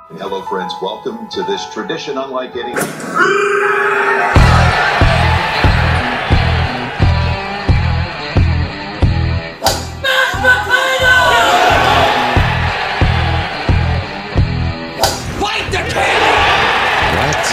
Hello, friends. Welcome to this tradition unlike any. Fight the king! What?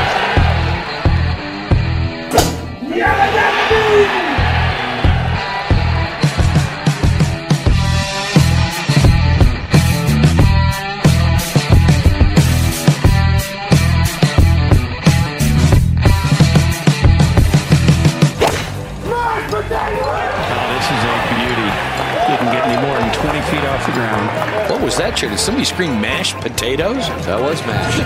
Didn't get any more than 20 feet off the ground. What was that, Chair? Did somebody scream mashed potatoes? That was mashed.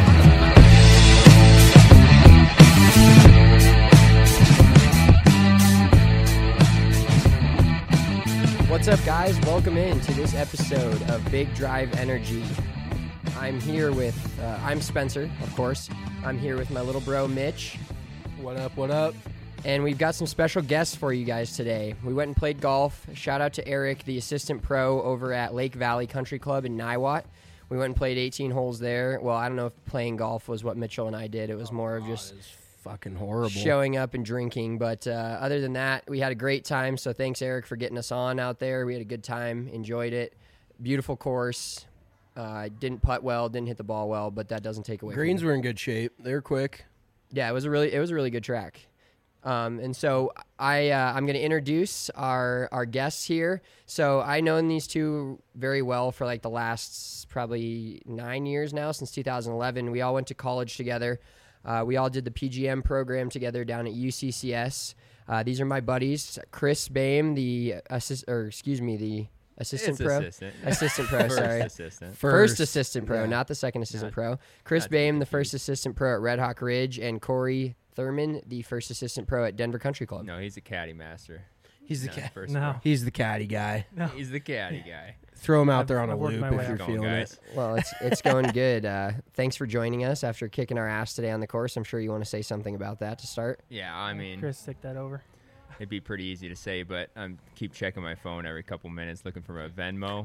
What's up, guys? Welcome in to this episode of Big Drive Energy. I'm here with, I'm Spencer, of course. I'm here with my little bro, Mitch. What up, what up? And we've got some special guests for you guys today. We went and played golf. Shout out to Eric, the assistant pro over at Lake Valley Country Club in Niwot. We went and played 18 holes there. Well, I don't know if playing golf was what Mitchell and I did. It was more of just Fucking horrible. showing up and drinking. But other than that, we had a great time. So thanks, Eric, for getting us on out there. We had a good time, enjoyed it. Beautiful course. Didn't putt well, didn't hit the ball well, but that doesn't take away Greens from were in good shape. They were quick. Yeah, it was a really good track. And so I'm going to introduce our guests here. So I known these two very well for like the last probably 9 years now, since 2011. We all went to college together. We all did the PGM program together down at UCCS. These are my buddies, Chris Boehm, the assistant pro. Assistant pro, sorry. First assistant pro, not the second assistant pro. Chris Boehm, the first assistant pro at Red Hawk Ridge, and Corey Thurman, the first assistant pro at Denver Country Club. No, he's a caddy master. He's the He's the caddy guy. the caddy guy. Throw him out there on a I've worked loop my way if you're up. feeling Guys. it. Well, it's going good. Thanks for joining us after kicking our ass today on the course. I'm sure you want to say something about that to start. Yeah, I mean, Chris, take that over. it'd be pretty easy to say, but I'm keep checking my phone every couple minutes looking for a Venmo.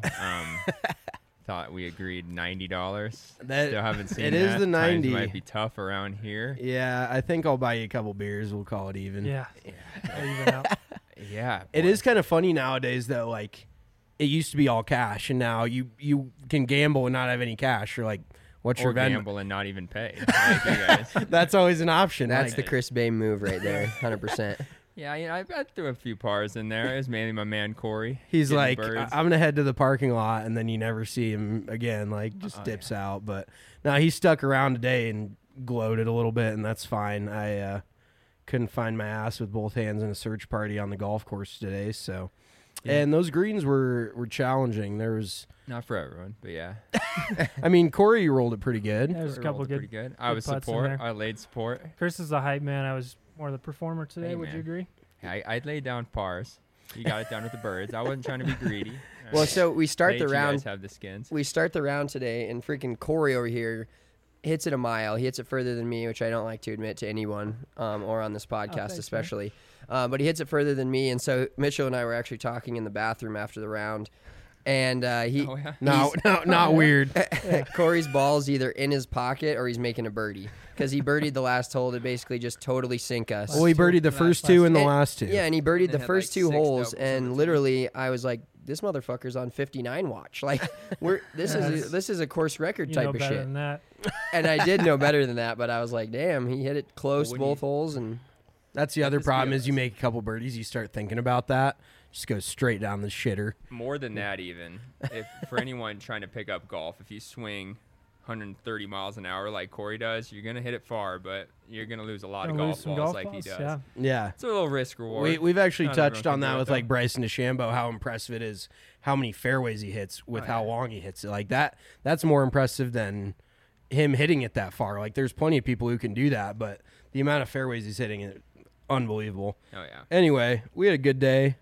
Thought we agreed $90. That- Still haven't seen it that. is the Times 90. might be tough around here. Yeah, I think I'll buy you a couple beers. We'll call it even. Yeah. Even out. Yeah, It boy. is kind of funny nowadays, though. Like, it used to be all cash, and now you can gamble and not have any cash. You're like, what's Or your Venmo? gamble and not even pay. Like you guys. That's always an option. That's like, the Chris Boehm move right there, 100%. Yeah, I threw a few pars in there. It was mainly my man Corey. He's getting like, birds. I'm gonna head to the parking lot, and then you never see him again. Like, just dips out. But now he stuck around today and gloated a little bit, and that's fine. I couldn't find my ass with both hands in a search party on the golf course today. So, and those greens were challenging. There was, Not for everyone, but yeah. I mean, Corey rolled it pretty good. There's a Corey couple rolled it good. pretty good. I good was putts in support. there. I laid support. Chris is the hype man. I was more the performer today. Hey, Would you man. agree? I laid down pars. You got it down with the birds. I wasn't trying to be greedy. Well, so we start Let the you round. guys have the skins. We start the round today, and freaking Corey over here hits it a mile. He hits it further than me, which I don't like to admit to anyone, or on this podcast thanks, especially. But he hits it further than me, and so Mitchell and I were actually talking in the bathroom after the round, and he Oh, yeah? No, not weird. Corey's ball's either in his pocket or he's making a birdie because he birdied the last hole to basically just totally sink us. Well, he birdied the first two and the last two. Yeah, and he birdied the had, first like, two 6 holes, doubles in and between. literally I was like, "This motherfucker's on 59 watch." Like, this is a course record You type know of better shit. than that. And I did know better than that, but I was like, "Damn, he hit it close when both holes." And That's the other Let's be problem is you honest. make a couple birdies, you start thinking about that. Just go straight down the shitter. More than that, even. If for anyone trying to pick up golf, if you swing 130 miles an hour like Corey does, you're going to hit it far, but you're going to lose a lot of Gonna golf lose some balls golf like balls, he does. Yeah. Yeah. It's a little risk reward. We've actually Not everyone touched can on do that it, with though. like Bryson DeChambeau, how impressive it is, how many fairways he hits with Oh, how yeah. long he hits it. Like that's more impressive than him hitting it that far. Like there's plenty of people who can do that, but the amount of fairways he's hitting it, unbelievable. Oh, yeah. Anyway, we had a good day.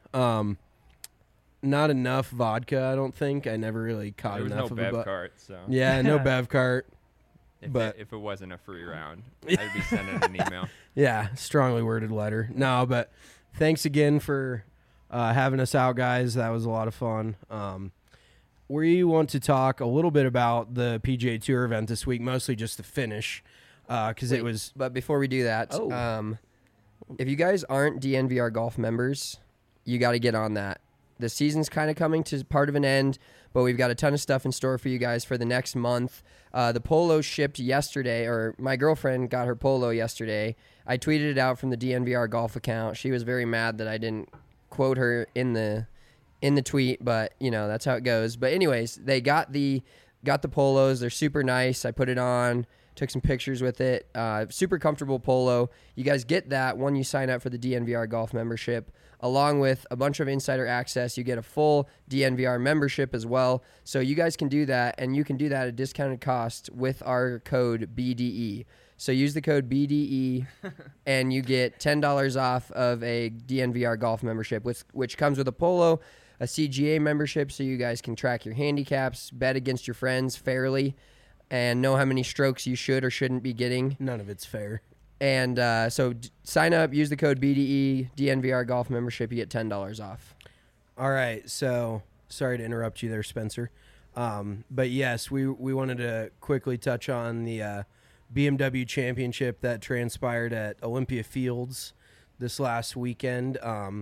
Not enough vodka, I don't think. I never really caught There was enough no of a bev bu- cart, so Yeah, no bev cart. but- if it wasn't a free round, I'd be sending an email. Yeah, strongly worded letter. No, but thanks again for having us out, guys. That was a lot of fun. we want to talk a little bit about the PGA Tour event this week, mostly just the finish, because it was. But before we do that, Oh. if you guys aren't DNVR Golf members, you got to get on that. The season's kind of coming to part of an end, but we've got a ton of stuff in store for you guys for the next month. The polo shipped yesterday, or my girlfriend got her polo yesterday. I tweeted it out from the DNVR Golf account. She was very mad that I didn't quote her in the tweet, but you know that's how it goes. But anyways, they got the polos. They're super nice. I put it on. Took some pictures with it. Super comfortable polo. You guys get that when you sign up for the DNVR Golf membership, along with a bunch of insider access. You get a full DNVR membership as well. So you guys can do that, and you can do that at a discounted cost with our code BDE. So use the code BDE, and you get $10 off of a DNVR Golf membership, which comes with a polo, a CGA membership, so you guys can track your handicaps, bet against your friends fairly, and know how many strokes you should or shouldn't be getting. None of it's fair. And sign up, use the code BDE, DNVR Golf membership, you get $10 off. All right, so sorry to interrupt you there, Spencer. But yes, we wanted to quickly touch on the BMW Championship that transpired at Olympia Fields this last weekend.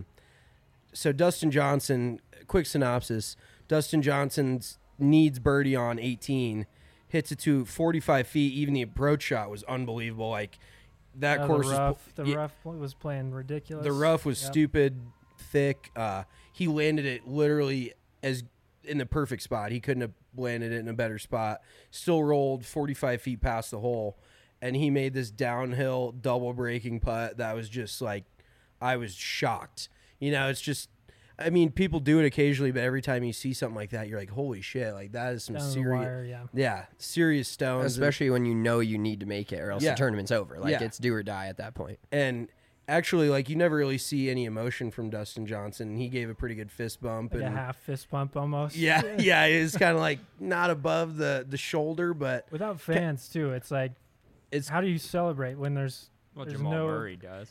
So Dustin Johnson, quick synopsis, Dustin Johnson needs birdie on 18, hits it to 45 feet. Even the approach shot was unbelievable. Like, that course the rough was playing ridiculous. The rough was stupid thick. He landed it literally as in the perfect spot. He couldn't have landed it in a better spot. Still rolled 45 feet past the hole, and he made this downhill double breaking putt that was just like, I was shocked. You know, it's just, I mean, people do it occasionally, but every time you see something like that, you're like, holy shit, like that is some Down the serious, wire, serious stones. Especially when you know you need to make it, or else the tournament's over. Like, it's do or die at that point. And actually, like, you never really see any emotion from Dustin Johnson. He gave a pretty good fist bump. Like and a half fist bump almost. Yeah, it was kind of like not above the shoulder, but without fans too. It's like, how do you celebrate when there's Jamal no Murray does.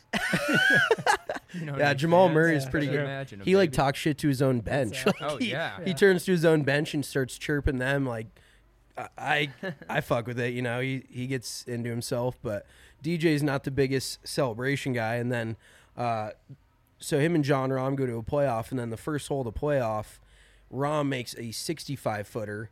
Jamal Murray is pretty good. Imagine He like talks shit to his own bench. Exactly. Like, he turns to his own bench and starts chirping them. Like, I fuck with it. You know, he gets into himself, but DJ's not the biggest celebration guy. And then, so him and John Rahm go to a playoff, and then the first hole of the playoff, Rahm makes a 65-footer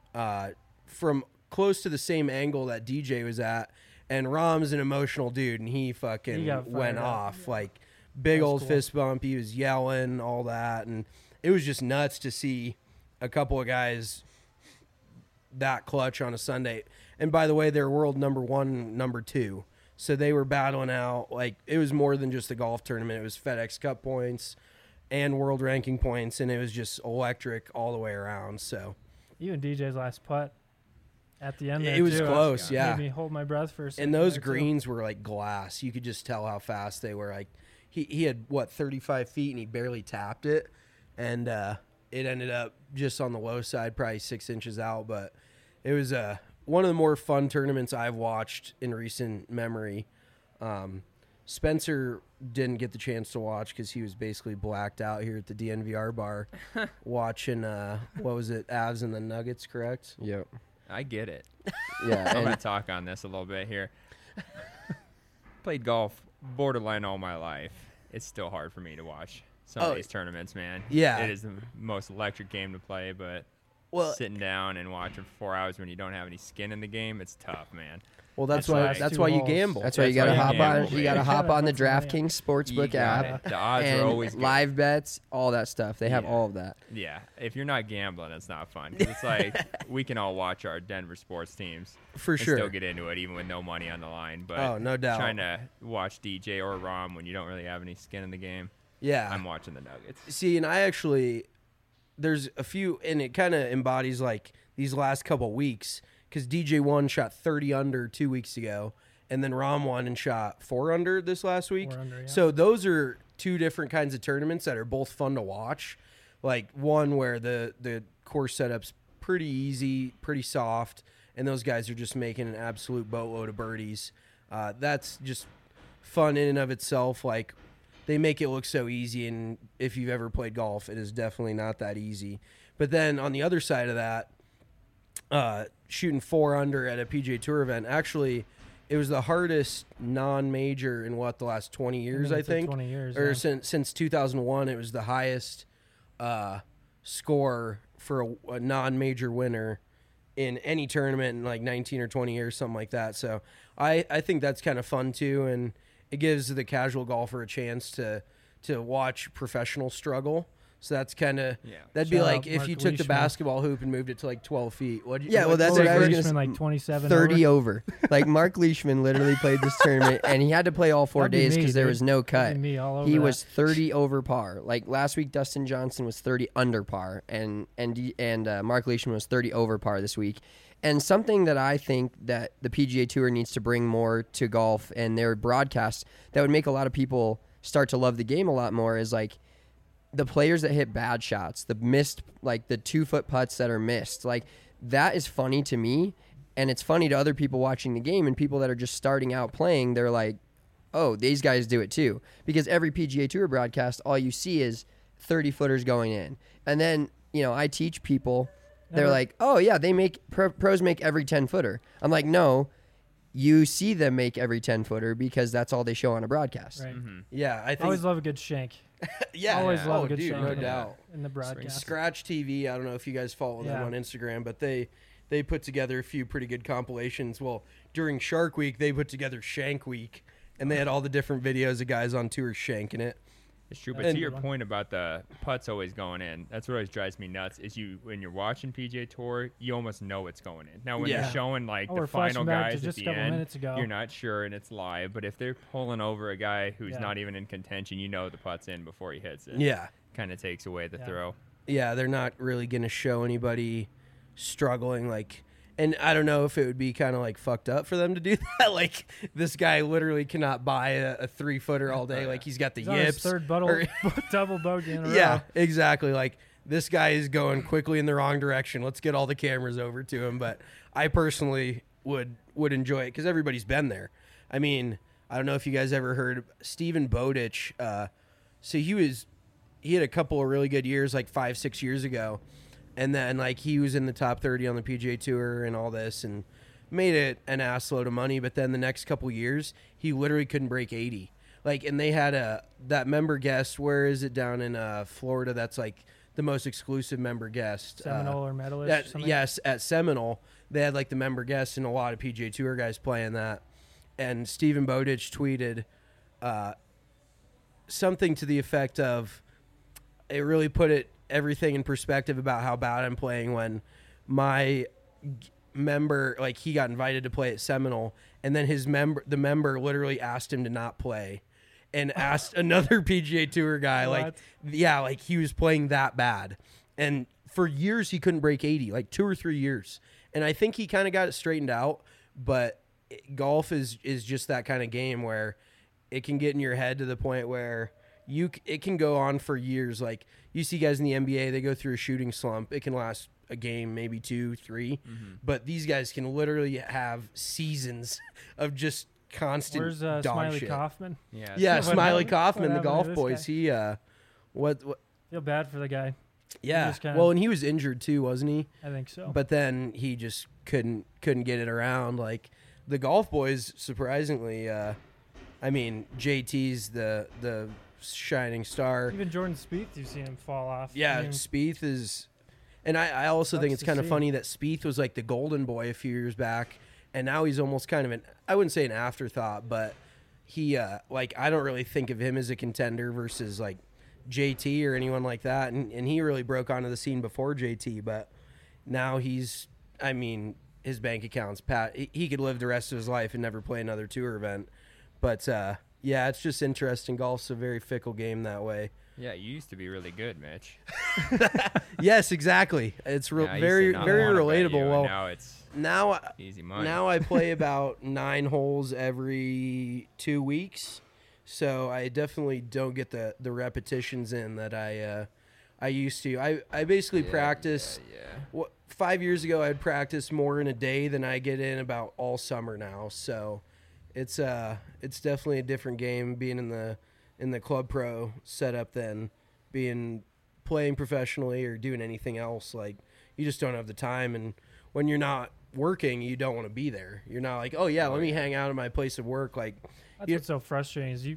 from close to the same angle that DJ was at. And Rahm's an emotional dude, and he fucking went off. Like, big old fist bump. He was yelling, all that. And it was just nuts to see a couple of guys that clutch on a Sunday. And by the way, they're world number 1, number 2. So they were battling out. Like, it was more than just a golf tournament. It was FedEx Cup points and world ranking points, and it was just electric all the way around. So even DJ's last putt at the end there, it was too, close, made me hold my breath for a second. And those there, greens were like glass. You could just tell how fast they were. Like, he had, 35 feet, and he barely tapped it. And it ended up just on the low side, probably 6 inches out. But it was one of the more fun tournaments I've watched in recent memory. Spencer didn't get the chance to watch because he was basically blacked out here at the DNVR bar watching, what was it, Avs and the Nuggets, correct? Yep. I get it. Yeah. I'm going to talk on this a little bit here. Played golf borderline all my life. It's still hard for me to watch some of these tournaments, man. Yeah. It is the most electric game to play, but sitting down and watching for 4 hours when you don't have any skin in the game, it's tough, man. Well, that's why you gamble. That's why you gotta hop on. gamble, You gotta baby. hop on the DraftKings Sportsbook app. The odds and are always good. live bets, all that stuff. They have all of that. Yeah, if you're not gambling, it's not fun. 'Cause it's like we can all watch our Denver sports teams For and sure. still get into it, even with no money on the line. But Oh, no doubt. trying to watch DJ or Rahm when you don't really have any skin in the game, Yeah. I'm watching the Nuggets. See, and I actually, there's a few, and it kind of embodies like these last couple weeks, because DJ won, shot 30 under 2 weeks ago, and then Rahm won and shot 4 under this last week. 4 under, yeah. So those are two different kinds of tournaments that are both fun to watch. Like one where the course setup's pretty easy, pretty soft, and those guys are just making an absolute boatload of birdies. That's just fun in and of itself. Like, they make it look so easy, and if you've ever played golf, it is definitely not that easy. But then on the other side of that, shooting 4 under at a PGA Tour event, actually, it was the hardest non-major in the last 20 years, I think. 20 years. Or Yeah. since 2001, it was the highest score for a non-major winner in any tournament in like 19 or 20 years, something like that. So I think that's kind of fun too, and it gives the casual golfer a chance to watch professional struggle. So that's kind of that'd be Shout like out if Mark you took the Leishman. basketball hoop and moved it to like 12 feet. Well, that's what Mark I was Leishman, going to like 27 30 over. over. Like Mark Leishman literally played this tournament, and he had to play all 4 That'd be days me, because there dude. was no cut. That'd be me all over He that. was 30 over par. Like last week, Dustin Johnson was 30 under par, and Mark Leishman was 30 over par this week. And something that I think that the PGA Tour needs to bring more to golf and their broadcast that would make a lot of people start to love the game a lot more is like the players that hit bad shots, the missed, like the 2-foot putts that are missed. Like that is funny to me, and it's funny to other people watching the game, and people that are just starting out playing, they're like, oh, these guys do it too. Because every PGA Tour broadcast, all you see is 30-footers going in. And then, I teach people, they're like, oh yeah, they make pros make every 10-footer. I'm like, no, you see them make every 10-footer because that's all they show on a broadcast. Right. Yeah, I I think always love a good shank. Always love a good dude, shank no in the- doubt. in the broadcast. Scratch TV, I don't know if you guys follow them Yeah. on Instagram, but they put together a few pretty good compilations. Well, during Shark Week, they put together Shank Week, and they had all the different videos of guys on tour shanking it. It's true, but And- to your point about the putts always going in, that's what always drives me nuts. Is when you're watching PGA Tour, you almost know it's going in. Now, when Yeah. they're showing like Oh, the we're final flashing back to guys at just a the couple end, minutes ago. you're not sure and it's live. But if they're pulling over a guy who's Yeah. not even in contention, you know the putt's in before he hits it. Yeah. Kind of takes away the Yeah. throw. Yeah, they're not really going to show anybody struggling, like, and I don't know if it would be kind of like fucked up for them to do that. Like, this guy literally cannot buy a 3-footer all day. Like, he's got the He's on his yips. third or- double bogey in a Yeah, row. exactly. Like, this guy is going quickly in the wrong direction. Let's get all the cameras over to him. But I personally would enjoy it because everybody's been there. I mean, I don't know if you guys ever heard Stephen Bowditch. So he had a couple of really good years, like 5-6 years ago. And then, like, he was in the top 30 on the PGA Tour and all this and made it an ass load of money. But then the next couple years, he literally couldn't break 80. Like, and they had that member guest. Where is it down in Florida? That's like the most exclusive member guest. Seminole or medalist. or something. Yes, at Seminole, they had like the member guests and a lot of PGA Tour guys playing that. And Stephen Bowditch tweeted something to the effect of, it really put everything in perspective about how bad I'm playing when my member, like, he got invited to play at Seminole, and then the member literally asked him to not play and asked another PGA Tour guy, like, yeah, like he was playing that bad. And for years he couldn't break 80, like 2 or 3 years. And I think he kind of got it straightened out, but golf is just that kind of game where it can get in your head to the point where it can go on for years. Like, you see guys in the NBA, they go through a shooting slump. It can last a game, maybe 2, 3, but these guys can literally have seasons of just constant Where's dog Smiley shit. Kaufman? Yeah, What Smiley happened? Kaufman, What the happened to golf this boys. guy? He what Feel bad for the guy. yeah. just kinda- Well, and he was injured too, wasn't he? I think so. But then he just couldn't get it around. Like, the golf boys, surprisingly, I mean, JT's the shining star. Even Jordan Spieth, you've seen him fall off. Yeah, I mean, Spieth is, and I also think Sucks it's to kind of see. funny that Spieth was like the golden boy a few years back, and now he's almost kind of I wouldn't say an afterthought, but he like, I don't really think of him as a contender versus like JT or anyone like that, and he really broke onto the scene before JT, but now he's, I mean, his bank account's he could live the rest of his life and never play another tour event. But yeah, it's just interesting. Golf's a very fickle game that way. Yeah, you used to be really good, Mitch. Yes, exactly. It's Yeah, I used to very not very wanna bet you, relatable. and Well, now it's now easy money. now I play about 9 holes every 2 weeks, so I definitely don't get the repetitions in that I used to. I basically practice. Yeah. 5 years ago, I'd practice more in a day than I get in about all summer now. So it's definitely a different game being in the club pro setup than being playing professionally or doing anything else, like you just don't have the time. And when you're not working, you don't want to be there. You're not like, oh yeah, let me hang out at my place of work. Like That's what's so frustrating is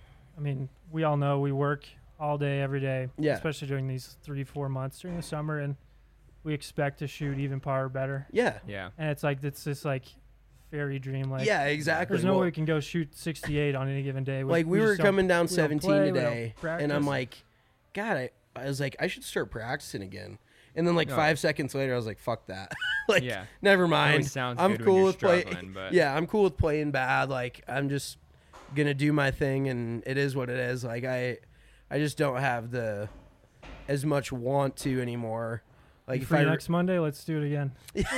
we all know we work all day, every day, especially during these 3-4 months during the summer, and we expect to shoot even par or better. Yeah. And it's like, it's this like fairy dream. Like, yeah, exactly. There's no way we can go shoot 68 on any given day. We were coming down 17 play, today, and I'm like, God, I was like, I should start practicing again. And then 5 seconds later, I was like, fuck that. Never mind. I'm cool with playing. Yeah, I'm cool with playing bad. Like, I'm just gonna do my thing, and it is what it is. Like, I just don't have as much want to anymore. Like, if next Monday, let's do it again.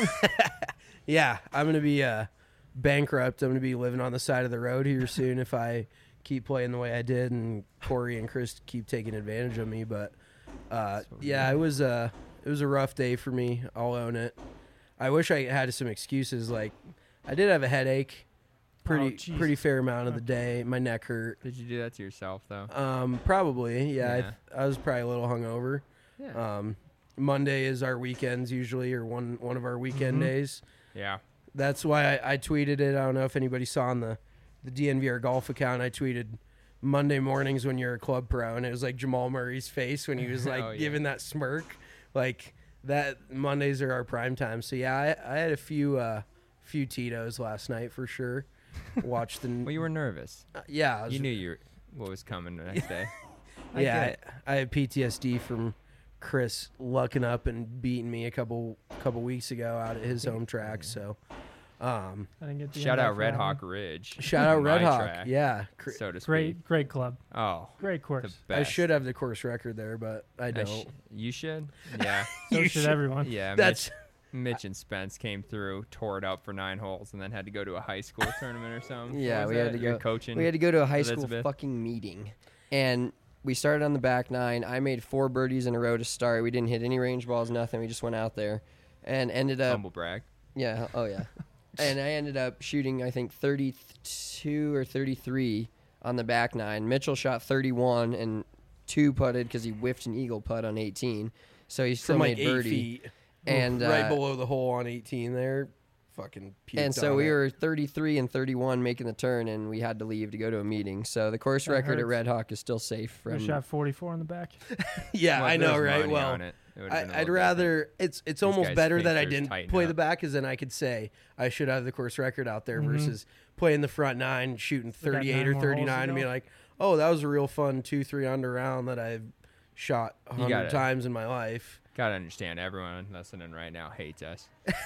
Yeah, I'm gonna be bankrupt. I'm gonna be living on the side of the road here soon if I keep playing the way I did, and Corey and Chris keep taking advantage of me. But it was a rough day for me. I'll own it. I wish I had some excuses. Like, I did have a headache, pretty fair amount of the day. My neck hurt. Did you do that to yourself though? Probably. Yeah. I was probably a little hungover. Yeah. Monday is our weekends usually, or one of our weekend days. Yeah. That's why I tweeted it. I don't know if anybody saw on the DNVR golf account. I tweeted Monday mornings when you're a club pro, and it was like Jamal Murray's face when he was like giving that smirk. Like, that Mondays are our prime time. So yeah, I had a few Tito's last night for sure. Watched the. Well, you were nervous. Yeah, you knew what was coming the next day. I had PTSD from Chris lucking up and beating me a couple weeks ago out at his home track. So, I didn't get the shout out Red Hawk Ridge. Shout out Red Hawk. Track, yeah, so to speak. Great club. Oh, great course. I should have the course record there, but I don't. You should. Yeah. So should everyone. Yeah. Mitch and Spence came through, tore it up for 9 holes, and then had to go to a high school tournament or something. Yeah, we had to go coaching. We had to go to a high school fucking meeting, and we started on the back 9. I made 4 birdies in a row to start. We didn't hit any range balls, nothing. We just went out there, and ended up humble brag. Yeah. Oh yeah. And I ended up shooting, I think, 32 or 33 on the back 9. Mitchell shot 31 and 2 putted because he whiffed an eagle putt on 18, so he still made 8 birdie. Feet. And right below the hole on 18 there, fucking puked. And so we were 33 and 31 making the turn, and we had to leave to go to a meeting. So the course record at Red Hawk is still safe. We shot 44 on the back. Yeah, I know, right? Well, I'd rather it's almost better that I didn't play the back, because then I could say I should have the course record out there versus playing the front 9, shooting 38 or 39, and be like, oh, that was a real fun 2-3 under round that I've shot 100 times in my life. Gotta understand, everyone listening right now hates us.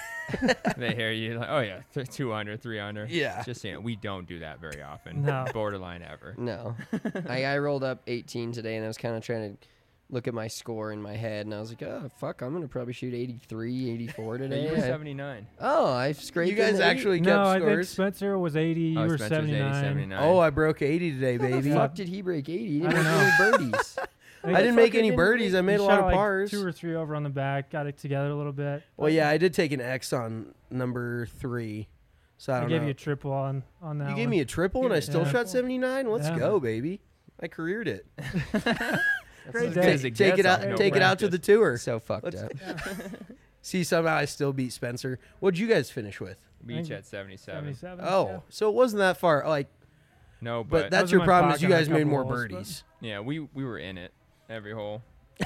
They hear you like, oh yeah, 2 under, 3 under. Yeah. Just saying, we don't do that very often. No. Borderline ever. No. I rolled up 18 today, and I was kind of trying to look at my score in my head, and I was like, oh, fuck, I'm going to probably shoot 83, 84 today. You were 79. Oh, I scraped. You guys actually kept scores? No, I think Spencer was 80. You were 79. Oh, I broke 80 today, baby. How the fuck did he break 80? He didn't make any birdies. I didn't make any birdies. I made a lot of pars. 2 or 3 over on the back. Got it together a little bit. Well, yeah, I did take an X on number 3. So I gave you a triple on that. You gave me a triple, and I still shot 79. Let's go, baby! I careered it. Great day. Take it out to the tour. So fucked up. See, somehow I still beat Spencer. What'd you guys finish with? We each had 77. Oh, so it wasn't that far. Like, no, but that's your problem. Is you guys made more birdies. Yeah, we were in it every hole.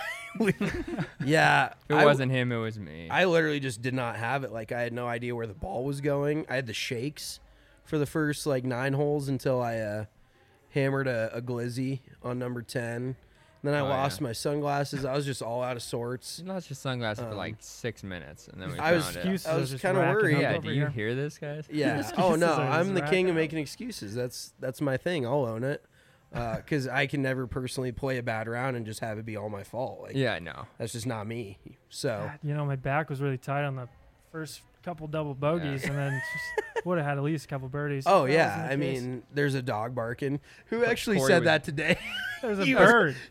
Yeah. If it wasn't him, it was me. I literally just did not have it. Like, I had no idea where the ball was going. I had the shakes for the first 9 holes until I hammered a glizzy on number 10. Then I lost my sunglasses. I was just all out of sorts. You lost your sunglasses for 6 minutes, and then we I was kind of worried. Yeah, do you hear this, guys? Yeah. Oh no, I'm the king of making excuses. That's my thing. I'll own it. Because I can never personally play a bad round and just have it be all my fault. Yeah, no, that's just not me. So God, my back was really tight on the first couple double bogeys, and then would have had at least a couple birdies. Oh yeah, I mean, there's a dog barking. Who actually said that today? There's a bird.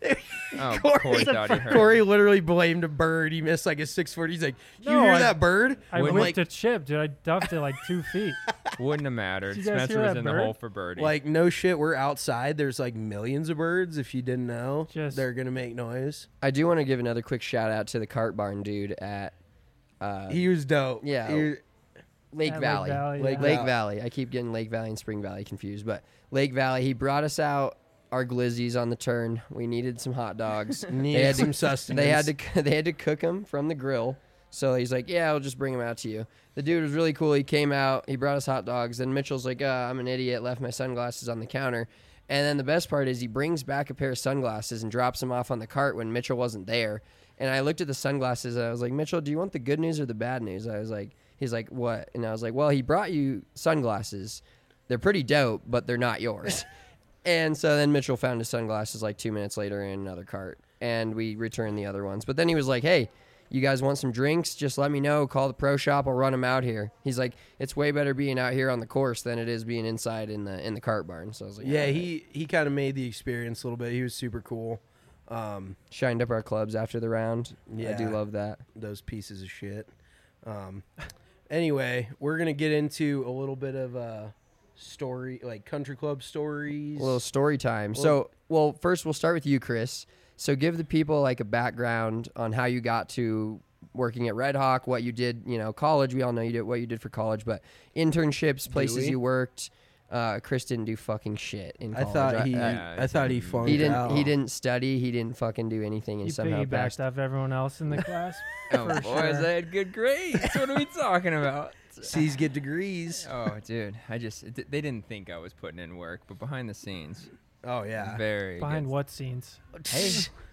Oh, Corey- Corey thought he heard. Corey literally blamed a bird. He missed like a 640. He's like, "You No, hear that bird?" I Wouldn't whipped a chip, dude. I duffed it like 2 feet. Wouldn't have mattered. Did you guys Spencer hear was that in the bird? hole for birdie. Like, no shit. We're outside. There's like millions of birds. If you didn't know, Just- they're gonna make noise. I do want to give another quick shout out to the cart barn dude at He was dope. yeah. He- Lake At Valley. Lake Lake Valley. Valley. I keep getting Lake Valley and Spring Valley confused, but Lake Valley. He brought us out our glizzies on the turn. We needed some hot dogs. Needed some sustenance. They had to cook them from the grill. So he's like, "Yeah, I'll just bring them out to you." The dude was really cool. He came out. He brought us hot dogs. Then Mitchell's like, "I'm an idiot. Left my sunglasses on the counter." And then the best part is he brings back a pair of sunglasses and drops them off on the cart when Mitchell wasn't there. And I looked at the sunglasses and I was like, "Mitchell, do you want the good news or the bad news?" I was like, he's like, "What?" And I was like, "Well, he brought you sunglasses. They're pretty dope, but they're not yours." And so then Mitchell found his sunglasses like 2 minutes later in another cart, and we returned the other ones. But then he was like, "Hey, you guys want some drinks? Just let me know. Call the pro shop. I'll run them out here." He's like, "It's way better being out here on the course than it is being inside in the cart barn." So I was like, Yeah, "All right." he kind of made the experience a little bit. He was super cool. Shined up our clubs after the round. I do Yeah. love that. Those pieces of shit. Anyway, we're gonna get into a little bit of story, like country club stories. A little story time. So, well, first we'll start with you, Chris. So give the people like a background on how you got to working at Red Hawk, what you did, college. We all know you did what you did for college, but internships, places we? you worked. Chris didn't do fucking shit in I college. thought he, Yeah, I thought he flunked he didn't. out. He didn't study. He didn't fucking do anything, and He somehow passed. piggybacked off everyone else in the class. oh, for boys, sure. I had good grades. What are we talking about? C's get degrees. Oh, dude, they didn't think I was putting in work, but behind the scenes, Oh yeah. very Behind good. what scenes? Hey,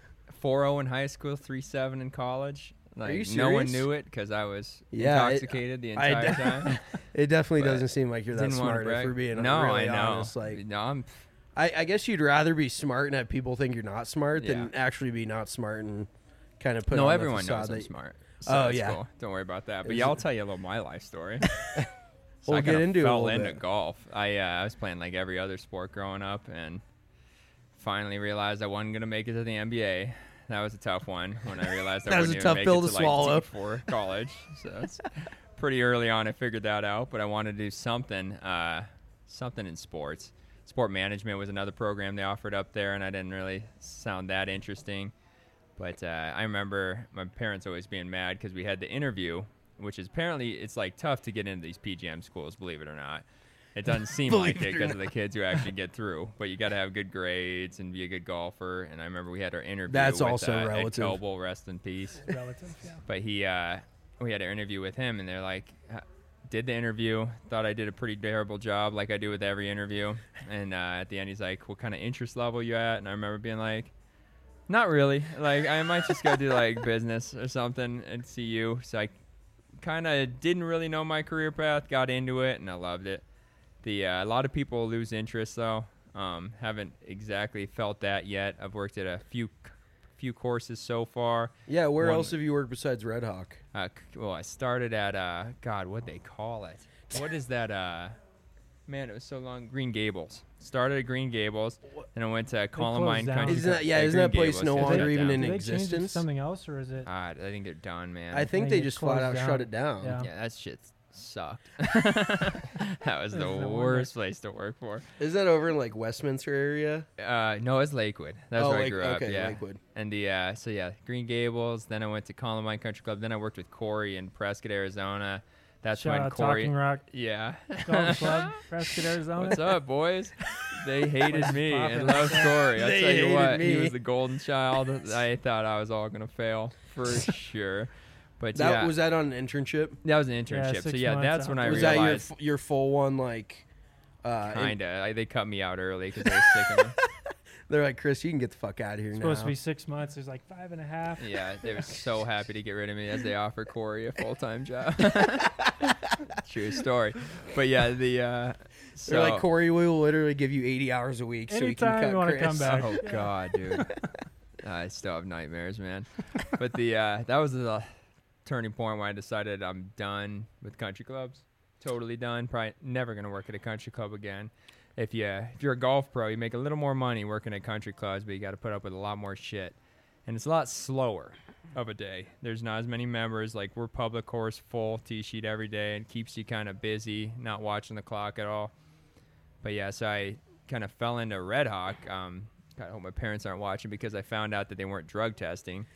4.0 in high school, 3.7 in college. Like, you no one serious? knew it because I was Yeah, intoxicated the I entire d- time. It definitely But doesn't seem like you're that Didn't want to smart. If brag. we're being no, really I know. honest, like no, I'm. I guess you'd rather be smart and have people think you're not smart than Yeah. actually be not smart and kind of put No, on everyone the knows facade I'm that- smart. So Oh, that's yeah. cool. Don't worry about that. But Is yeah, I'll it- tell you a little my life story. We'll I get kinda into it a fell little into bit. golf. I was playing like every other sport growing up, and finally realized I wasn't gonna make it to the NBA. That was a tough one when I realized That I was wouldn't a even tough make pill it to to like swallow. for college. So it's pretty early on I figured that out. But I wanted to do something, something in sports. Sport management was another program they offered up there, and I didn't really sound that interesting. But I remember my parents always being mad because we had the interview, which is apparently it's like tough to get into these PGM schools, believe it or not. It doesn't seem like it because of the kids who actually get through, but you got to have good grades and be a good golfer. And I remember we had our interview. That's with, also Ed relative. Coble, rest in peace. Relative, yeah. But we had an interview with him, and they're like, did the interview, thought I did a pretty terrible job, like I do with every interview. And at the end, he's like, "What kind of interest level you at?" And I remember being like, "Not really. Like, I might just go do like business or something and see you." So I kind of didn't really know my career path, got into it, and I loved it. A lot of people lose interest though. Haven't exactly felt that yet. I've worked at a few courses so far. Yeah, where One- else have you worked besides Red Hawk? Well, I started at God, what'd they call it? What is that? Man, it was so long. Green Gables. Started at Green Gables, and I went to Columbine down. Country. Isn't that Green that place Gables, no yeah, they longer shut even down. in Did they change it to existence? something else, or is it? I think they're done, man. I think think they it just flat out closed shut down. it down. Yeah. Yeah, that shit sucked. That was the No wonder. worst place to work for. Is that over in like Westminster area? No, it's Lakewood. That's Oh, where I Lake- grew up. okay, Yeah. Lakewood. And Green Gables. Then I went to Columbine Country Club. Then I worked with Corey in Prescott, Arizona. That's Shout when out Corey. Talking Rock Yeah. Golf Club, Prescott, Arizona. What's up, boys? They hated me poppin'. and loved Corey. I'll They tell you hated what, me. he was the golden child. I thought I was all gonna fail for sure. But That yeah, was that on an internship? that was an internship. So 6 yeah, months that's out. when I Was that realized. your full one like? Kinda. They cut me out early because they were sick of me. They're like, Chris, you can get the fuck out of here It's now. supposed to be 6 months. There's like 5.5. Yeah, they were so happy to get rid of me as they offered Corey a full-time job. True story. But yeah, so They're like, Corey, we will literally give you 80 hours a week so we can Anytime cut you wanna Chris. come back. Oh God, dude. I still have nightmares, man. But that was the turning point when I decided I'm done with country clubs. Totally done. Probably never gonna work at a country club again. If you're a golf pro, you make a little more money working at country clubs, but you got to put up with a lot more shit. and it's a lot slower of a day. There's not as many members. Like, we're public course, full tee sheet every day, and keeps you kind of busy, not watching the clock at all. But yeah, so I kind of fell into Red Hawk. God, I hope my parents aren't watching, because I found out that they weren't drug testing.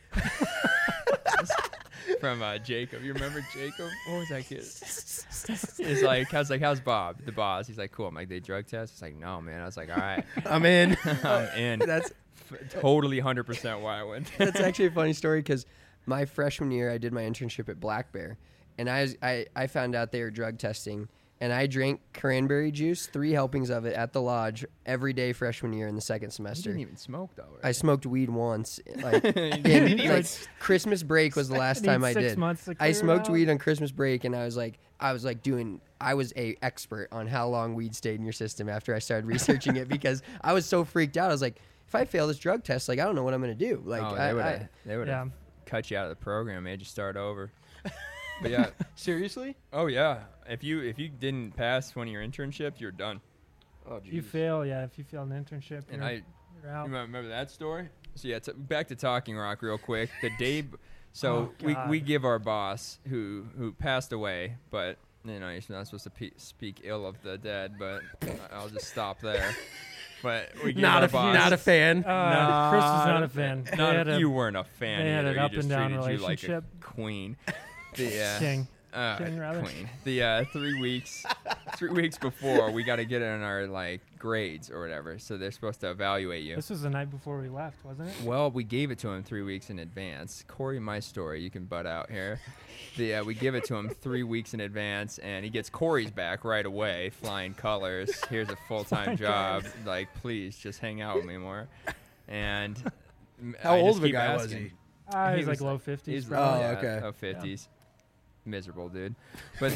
From Jacob. You remember Jacob? What was that kid? He's like, I was like, how's Bob, the boss? He's like, cool. I'm like, they drug test? He's like, no, man. I was like, all right. I'm in. I'm in. That's totally 100% why I went. That's actually a funny story, because my freshman year I did my internship at Black Bear, and I found out they were drug testing, and I drank cranberry juice, 3 helpings of it at the lodge every day freshman year in the second You semester. didn't even smoke, though, right? I smoked weed once. Like, didn't like Christmas break was the last time I 6 did. months to I clear it smoked out. weed on Christmas break, and I was a expert on how long weed stayed in your system after I started researching it, because I was so freaked out. I was like, if I fail this drug test, like, I don't know what I'm gonna do. Like, they would have Yeah. cut you out of the program, made you start over. But yeah, Seriously? oh yeah. If you didn't pass one of your internships, you're done. Oh, If you fail, if you fail an internship, And you're out. you remember that story? So yeah, back to Talking Rock real quick. The day, so Oh, we God. give our boss who passed away, but you know you're not supposed to speak ill of the dead, but I'll just stop there. But we give our boss. Not a fan. Chris was not a fan. They had a You weren't a fan. they had either. an up You just and down treated you like a relationship. queen. The king. King, rather. queen. The 3 weeks before, we got to get in our like grades or whatever. So they're supposed to evaluate you. This was the night before we left, wasn't it? Well, we gave it to him 3 weeks in advance. Corey, my story, you can butt out here. We give it to him 3 weeks in advance, and he gets Corey's back right away, flying colors. Here's a full-time job. Like, please, just hang out with me more. And How I old just of a keep guy was asking. he? He was like low 50s. He's probably. Oh, okay. Low 50s. Miserable, dude. But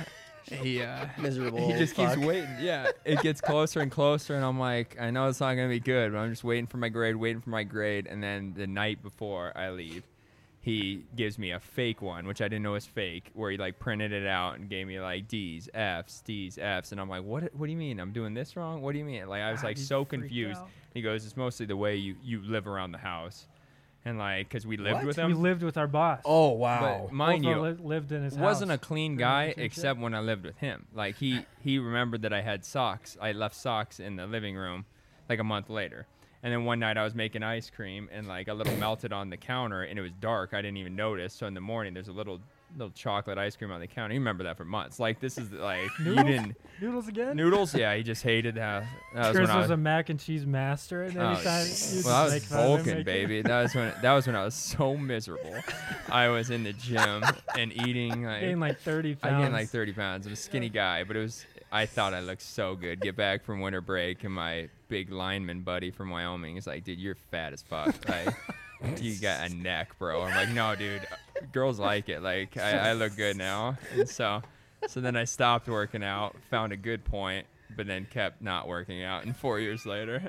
he miserable. he just fuck. keeps waiting. Yeah, it gets closer and closer, and I'm like, I know it's not gonna be good, but I'm just waiting for my grade, and then the night before I leave, he gives me a fake one, which I didn't know was fake, where he like printed it out and gave me like D's, F's, and I'm like, what do you mean? I'm doing this wrong? What do you mean? Like I was like you so freaked confused. out. He goes, it's mostly the way you live around the house, and like because we lived What? with We him. lived with our boss. Oh, wow. But mind Both you, lived in his house. wasn't a clean during guy the internship. except when I lived with him. Like he remembered that I had socks. I left socks in the living room like a month later. And then one night I was making ice cream and like a little melted on the counter and it was dark. I didn't even notice. So in the morning there's a little chocolate ice cream on the counter. You remember that for months. Like this is like you didn't Noodles again? noodles. Yeah, he just hated that. That Chris when I was a mac and cheese master, and Oh, anytime well, I was Vulcan, baby. That was when I was so miserable. I was in the gym and eating gained like 30 I pounds. gained like 30 pounds. I'm a skinny guy, but I thought I looked so good. Get back from winter break, and my big lineman buddy from Wyoming is like, dude, you're fat as fuck. Like, you got a neck, bro. I'm like, no, dude, girls like it. Like, I look good now. And so then I stopped working out, found a good point, but then kept not working out. And 4 years later,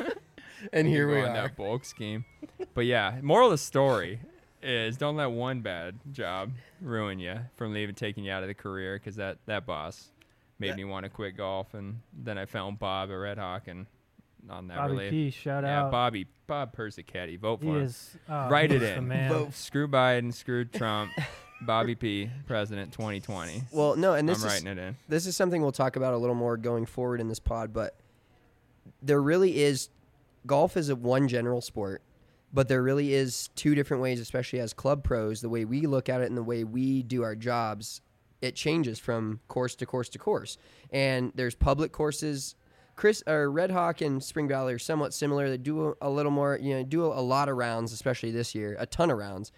And here we on are. that bulk scheme. But yeah, moral of the story is don't let one bad job ruin you from taking you out of the career, because that boss made me want to quit golf, and then I found Bob at Red Hawk, and I'll never Bobby leave. P, shout Yeah, out. Bob Persichetti, vote He for him. is. Write he's it the in. man. Vote. Screw Biden, screw Trump, Bobby P, President 2020. Well, no, and I'm this writing it in. this is something we'll talk about a little more going forward in this pod, but there really is golf is one general sport, but there really is two different ways, especially as club pros, the way we look at it and the way we do our jobs, it changes from course to course to course. And there's public courses. Red Hawk and Spring Valley are somewhat similar. They do a little more, do a lot of rounds, especially this year, a ton of rounds.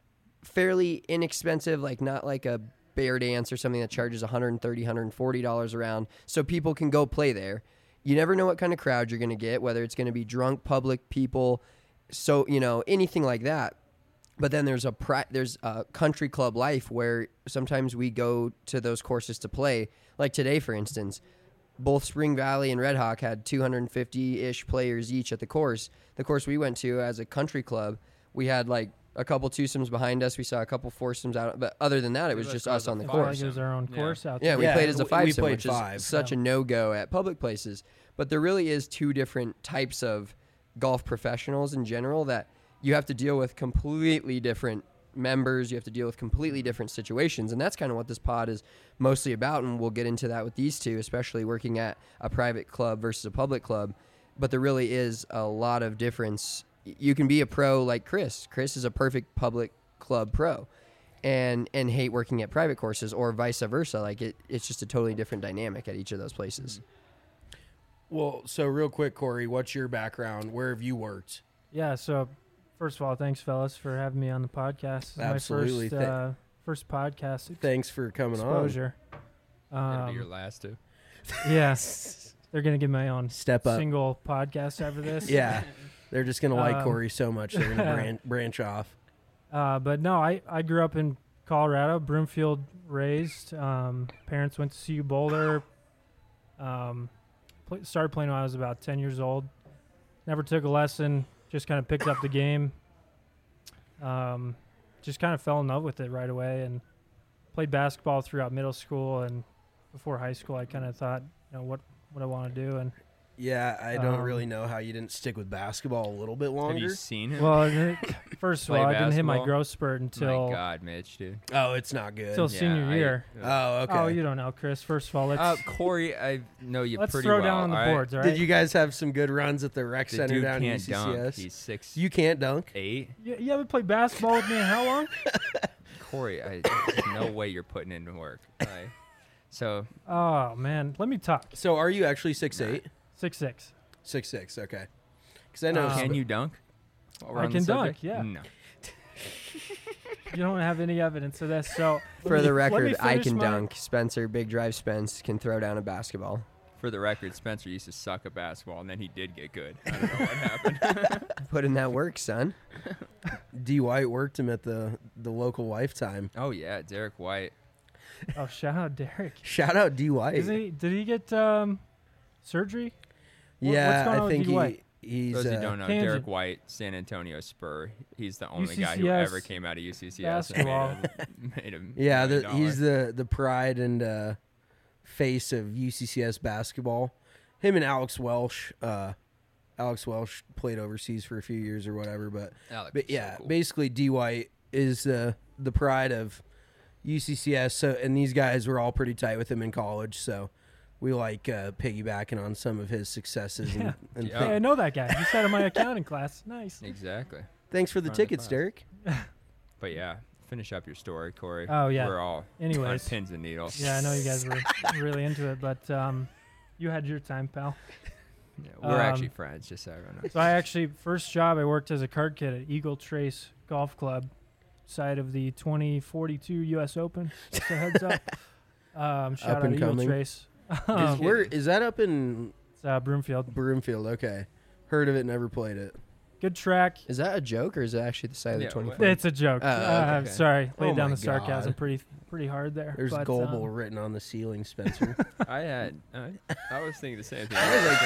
Fairly inexpensive, like not like a Bear Dance or something that charges $130, $140 a round, so people can go play there. You never know what kind of crowd you're going to get, whether it's going to be drunk public people, so anything like that. But then there's a country club life where sometimes we go to those courses to play. Like today, for instance, both Spring Valley and Red Hawk had 250-ish players each at the course. The course we went to as a country club, we had like a couple twosomes behind us. We saw a couple foursomes out, but other than that, it was just us on the It felt like course. it was our own Yeah. course out Yeah, there. we Yeah, played as a we five-some, played which five. is such a no-go at public places. But there really is two different types of golf professionals in general that you have to deal with completely different members. You have to deal with completely different situations. And that's kind of what this pod is mostly about. And we'll get into that with these two, especially working at a private club versus a public club. But there really is a lot of difference. You can be a pro like Chris. Chris is a perfect public club pro and hate working at private courses, or vice versa. Like it's just a totally different dynamic at each of those places. Well, so real quick, Corey, what's your background? Where have you worked? Yeah, so first of all, thanks, fellas, for having me on the podcast. This is Absolutely. my first podcast Thanks for coming exposure. That'll be your last two. Yeah, they're going to get my own Step up. single podcast after this. Yeah. They're just going to like Corey so much they're going to branch off. But no, I grew up in Colorado, Broomfield raised. Parents went to CU Boulder. Started playing when I was about 10 years old. Never took a lesson, just kind of picked up the game. Just kind of fell in love with it right away and played basketball throughout middle school. And before high school, I kind of thought, what I want to do. And yeah, I don't really know how you didn't stick with basketball a little bit longer. Have you seen him? Well, first of all, I didn't hit my basketball? growth spurt until My God, Mitch, dude. Oh, it's not good. until senior year. Oh, okay. Oh, you don't know, Chris. First of all, let's Corey, I know you let's pretty throw well. down on the all right? boards, all right? Did you guys have some good runs at the rec The center dude down in can't dunk. UCCS? He's 6'8". You can't dunk? You haven't played basketball with me in how long? Corey, there's no way you're putting in work. Like, so Oh man, let me talk. So are you actually 6'8"? 6'6". 6'6", okay. Because I know. can you dunk? While we're I on the can dunk, subject? yeah. No. You don't have any evidence of this, so For the let me record, I finish can my- dunk. Spencer, Big Drive Spence, can throw down a basketball. For the record, Spencer used to suck at basketball, and then he did get good. I don't know what happened. Put in that work, son. D. White worked him at the local Lifetime. Oh yeah, Derek White. Oh, shout out Derek. Shout out D. White. Did he get surgery? Yeah, what's going on I with think D. White? he's. Those who don't know, Tangent. Derek White, San Antonio Spur. He's the only guy who UCCS ever came out of UCCS basketball. and made him. Yeah, $1 million. he's the pride and face of UCCS basketball. Him and Alex Welsh. Alex Welsh played overseas for a few years or whatever, but Alex is so yeah, cool. basically D. White is the pride of UCCS. So, and these guys were all pretty tight with him in college. So, we like piggybacking on some of his successes. Yeah. And Yeah. Hey, I know that guy. He sat in my accounting class. Nice. Exactly. thanks for the Front of the tickets, class. Derek. But yeah, finish up your story, Corey. Oh, yeah. We're all Anyways. on pins and needles. Yeah, I know you guys were really into it, but you had your time, pal. Yeah, we're Um, actually friends, just so everyone knows. So I actually, first job, I worked as a card kid at Eagle Trace Golf Club, site of the 2042 U.S. Open. Just a heads up. Shout Up out and Eagle coming. Trace. Is that up in It's Broomfield. Broomfield? Okay, heard of it, never played it. Good track. Is that a joke, or is it actually the side Yeah, of the 24? what- It's a joke. Oh, okay. I'm sorry. Oh Laid down my the sarcasm God. pretty hard there. There's but, Goebel written on the ceiling, Spencer. I had. I was thinking the same thing.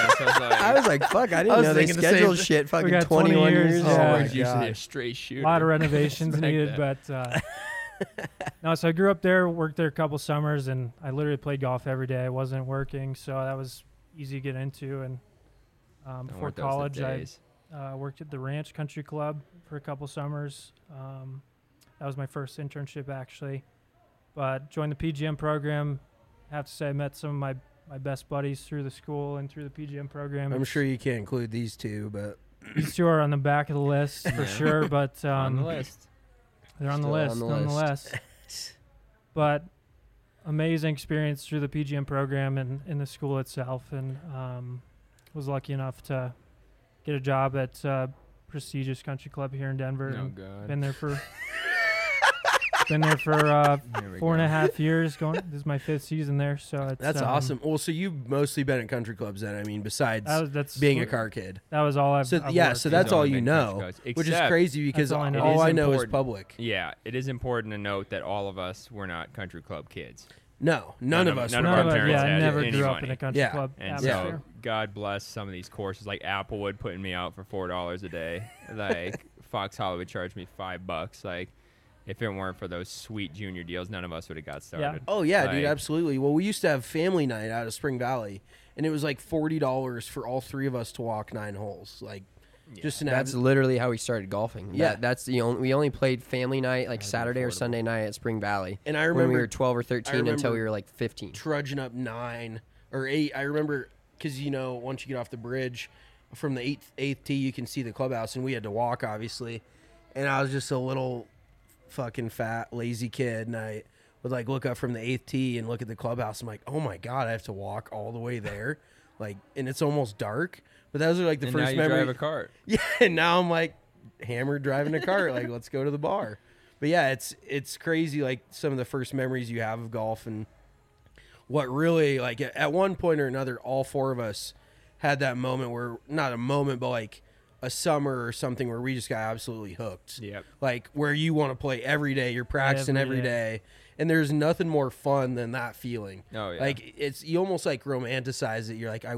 I was like, fuck, I I didn't was know they thinking the same scheduled thing. shit fucking got 20 21 years, years. yeah. Oh my always usually a god. straight shooter. a lot of renovations Respect needed, that. but no. So I grew up there, worked there a couple summers, and I literally played golf every day. I wasn't working, so that was easy to get into. And Don't before want those the college, I days. worked at the Ranch Country Club for a couple summers. That was my first internship, actually. But joined the PGM program. I have to say I met some of my best buddies through the school and through the PGM program. I'm sure you can't include these two, but These two are on the back of the list for Yeah. sure, but on the list. they're on the Still on list the nonetheless. But amazing experience through the PGM program and in the school itself, and was lucky enough to get a job at prestigious country club here in Denver. Oh and God. been there for 4.5 years. Going, this is my 5th season there, so it's that's awesome. Well, so you've mostly been at country clubs then. I mean, besides That's being a car kid. That was all I've. So I've yeah, worked. so that's He's all only you been country know, clubs. which is Except- crazy because all I know. all It I is know is important. public. Yeah, it is important to note that all of us were not country club kids. No, none of us. none were of None our of us, parents yeah, I had never any grew up money. in a country Yeah. club And atmosphere. so, God bless some of these courses like Applewood putting me out for $4 a day. Like Fox Hollywood charged me $5. Like if it weren't for those sweet junior deals, none of us would have got started. Oh yeah, dude, Like, absolutely. Well, we used to have family night out of Spring Valley, and it was like $40 for all three of us to walk 9 holes. Like, Just an That's literally how we started golfing. Yeah. That's the only. We only played family night, like Saturday or Sunday night at Spring Valley. And I when remember we were 12 or 13 until we remember were like 15. trudging up 9 or 8. I remember because once you get off the bridge from the eighth tee, you can see the clubhouse, and we had to walk obviously. And I was just a little fucking fat lazy kid, and I would like look up from the 8th tee and look at the clubhouse. I'm like, oh my god, I have to walk all the way there, like, and it's almost dark. But those are like the And first now you memory. drive a cart. Yeah, and now I'm like hammered driving a cart. Like, let's go to the bar. But yeah, it's crazy. Like some of the first memories you have of golf, and what really like at one point or another, all 4 of us had that moment where not a moment, but like a summer or something where we just got absolutely hooked. Yep. Like where you want to play every day, you're practicing every day, and there's nothing more fun than that feeling. Oh yeah. Like you almost like romanticize it. You're like,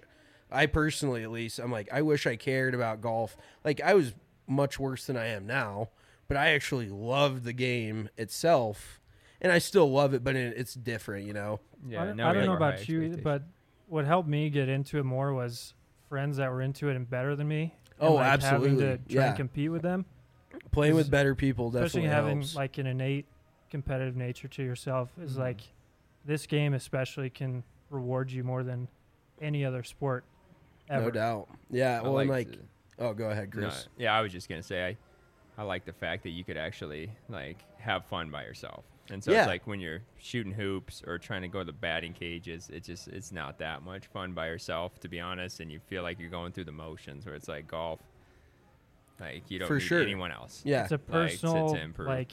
I personally at least, I'm like, I wish I cared about golf. Like I was much worse than I am now, but I actually loved the game itself, and I still love it, but it's different, Yeah. I now we don't know have our high about you, either, expectations. but what helped me get into it more was friends that were into it and better than me. Oh, and, like, absolutely. Having to try Yeah. and compete with them, playing with better people especially definitely having helps. like an innate competitive nature to yourself, is Mm-hmm. like this game especially can reward you more than any other sport ever. No doubt. Yeah. I Well, and like like, oh, go ahead, No, Chris. yeah, I was just gonna say I like the fact that you could actually like have fun by yourself. And so Yeah. it's like when you're shooting hoops or trying to go to the batting cages, it's not that much fun by yourself, to be honest, and you feel like you're going through the motions, where it's like golf, like you don't For need sure. anyone else. Yeah. It's a Like, to personal improve. like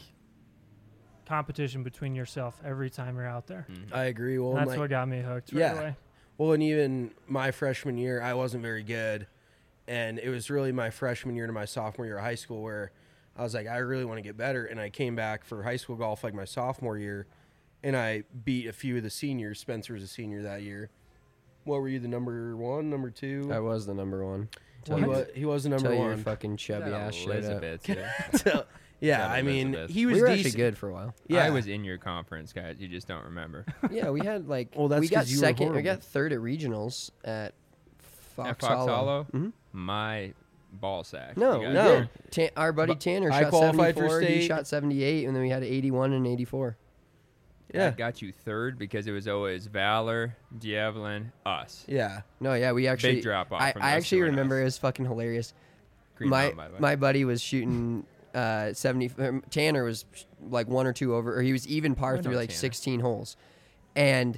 competition between yourself every time you're out there. I agree. Well, And and that's like, what got me hooked right yeah. away. Well, and even my freshman year, I wasn't very good. And it was really my freshman year to my sophomore year of high school where I was like, I really want to get better. And I came back for high school golf like my sophomore year, and I beat a few of the seniors. Spencer was a senior that year. What were you, the number 1, number 2? I was the number 1. He was the number Till your 1. fuction chubby ass showed up. Elizabeth, yeah. So, yeah, Shout out I mean, Elizabeth. he was We were decent. actually good for a while. Yeah, I was in your conference, guys. You just don't remember. Yeah, we had like Well, that's we got 'cause you were second. We horrible. got third at regionals at Fox, At Fox Hollow, Mhm. my ball sack. No, You we guys No. did. did. Our buddy Tanner I shot qualified for 74. He state. shot 78, and then we had 81 and 84. Yeah. I got you third because it was always Valor, Diavelin, us. Yeah. No, yeah, we actually drop off I, from I those actually two and remember us. it was fucking hilarious. Green Mountain, by the way. My buddy was shooting 70. Tanner was like 1 or 2 over, or he was even par I through know like Tanner. 16 holes, and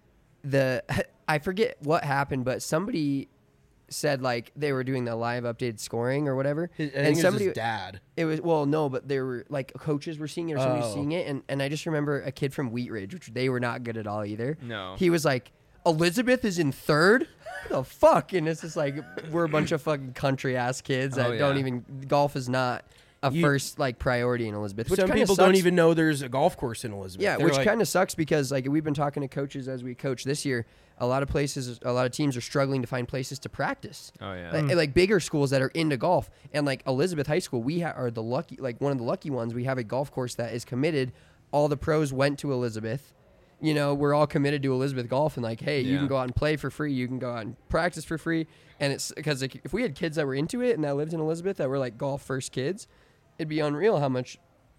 I forget what happened, but somebody said like they were doing the live updated scoring or whatever, I think and it was somebody his dad. it was no, but there were like coaches were seeing it or somebody was Oh. seeing it, and I just remember a kid from Wheat Ridge, which they were not good at all either. No. He was like, Elizabeth is in third? The fuck? And it's just like we're a bunch of fucking country ass kids that Oh, don't yeah. even golf is not a first like priority in Elizabeth. Which Some kinda people sucks. don't even know there's a golf course in Elizabeth. Yeah, They're which like, kind of sucks because like we've been talking to coaches as we coach this year. A lot of teams are struggling to find places to practice. Oh yeah. Like bigger schools that are into golf, and like Elizabeth High School, we are the lucky, like one of the lucky ones. We have a golf course that is committed. All the pros went to Elizabeth. You know, we're all committed to Elizabeth golf, and like, hey, you Yeah. can go out and play for free. You can go out and practice for free. And it's because like, if we had kids that were into it and that lived in Elizabeth that were like golf first kids, it'd be unreal how much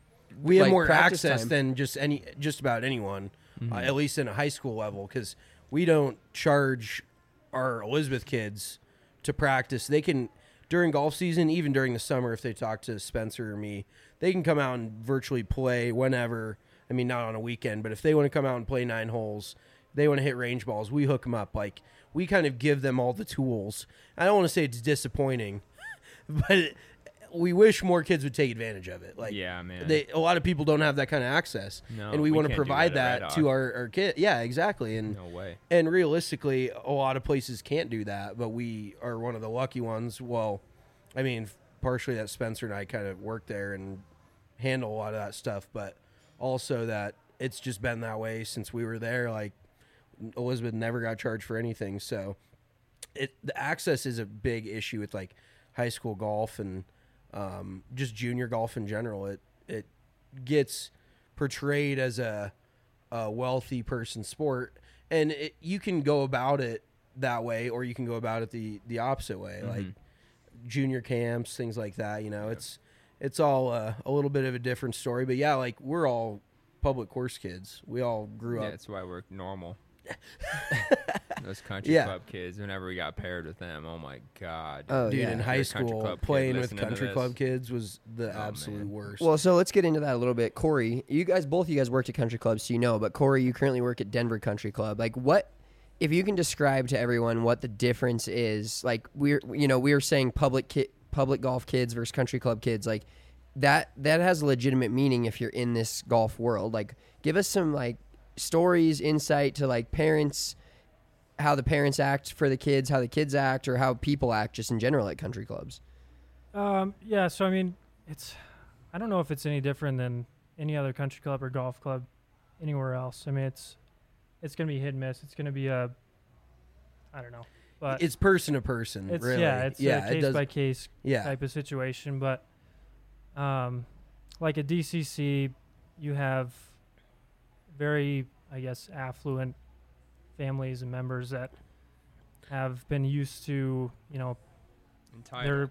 we have like, more practice access time. than just about anyone, at least in a high school level, because we don't charge our Elizabeth kids to practice. They can during golf season, even during the summer, if they talk to Spencer or me, they can come out and virtually play whenever. I mean, not on a weekend, but if they want to come out and play 9 holes, they want to hit range balls, we hook them up. Like, we kind of give them all the tools. I don't want to say it's disappointing, but we wish more kids would take advantage of it. Like, Yeah, man. a lot of people don't have that kind of access, No, and we we want to can't do provide that at that Red to Hawk. our kids. Yeah, exactly. And No way. and realistically, a lot of places can't do that, but we are one of the lucky ones. Well, I mean, partially that Spencer and I kind of work there and handle a lot of that stuff, but also that it's just been that way since we were there. Like, Elizabeth never got charged for anything, so the access is a big issue with like high school golf and just junior golf in general. It gets portrayed as a wealthy person sport, and you can go about it that way, or you can go about it the opposite way. Like, junior camps, things like that. You know, it's all a little bit of a different story. But yeah, like we're all public course kids. We all grew Yeah, up. that's why we're normal. Those country Yeah. club kids, whenever we got paired with them, oh my God. Oh, Dude, yeah. in If high you're a country school, club kid playing with listening to country this. club kids was the Oh, absolute man. worst. Well, so let's get into that a little bit. Corey, both of you guys worked at country clubs, so you know. But Corey, you currently work at Denver Country Club. Like, what if you can describe to everyone what the difference is? Like, we were saying public golf kids versus country club kids. Like, that has legitimate meaning if you're in this golf world. Like, give us some like stories, insight to like parents, how the parents act for the kids, how the kids act, or how people act just in general at country clubs. Yeah, so I mean, I don't know if it's any different than any other country club or golf club anywhere else. I mean, it's going to be hit and miss. It's going to be I don't know, but it's person to person, it's really. a it case does, by case yeah. type of situation. But like at DCC, you have very, I guess, affluent families and members that have been used to, you know, Entitled.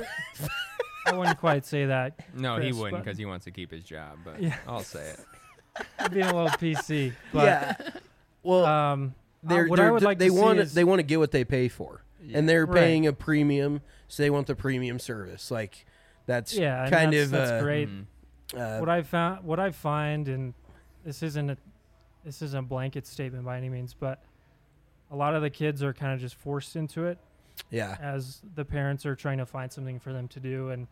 I wouldn't quite say that. No, Chris, he wouldn't but- because he wants to keep his job, but Yeah. I'll say it. I'm being a little PC. But, Yeah. Well, what I would like they to see want is they want to get what they pay for, and they're Right. paying a premium, so they want the premium service. Like that's and kind that's, of that's great. Mhm. What I find, and this isn't a blanket statement by any means, but a lot of the kids are kind of just forced into it Yeah, as the parents are trying to find something for them to do, and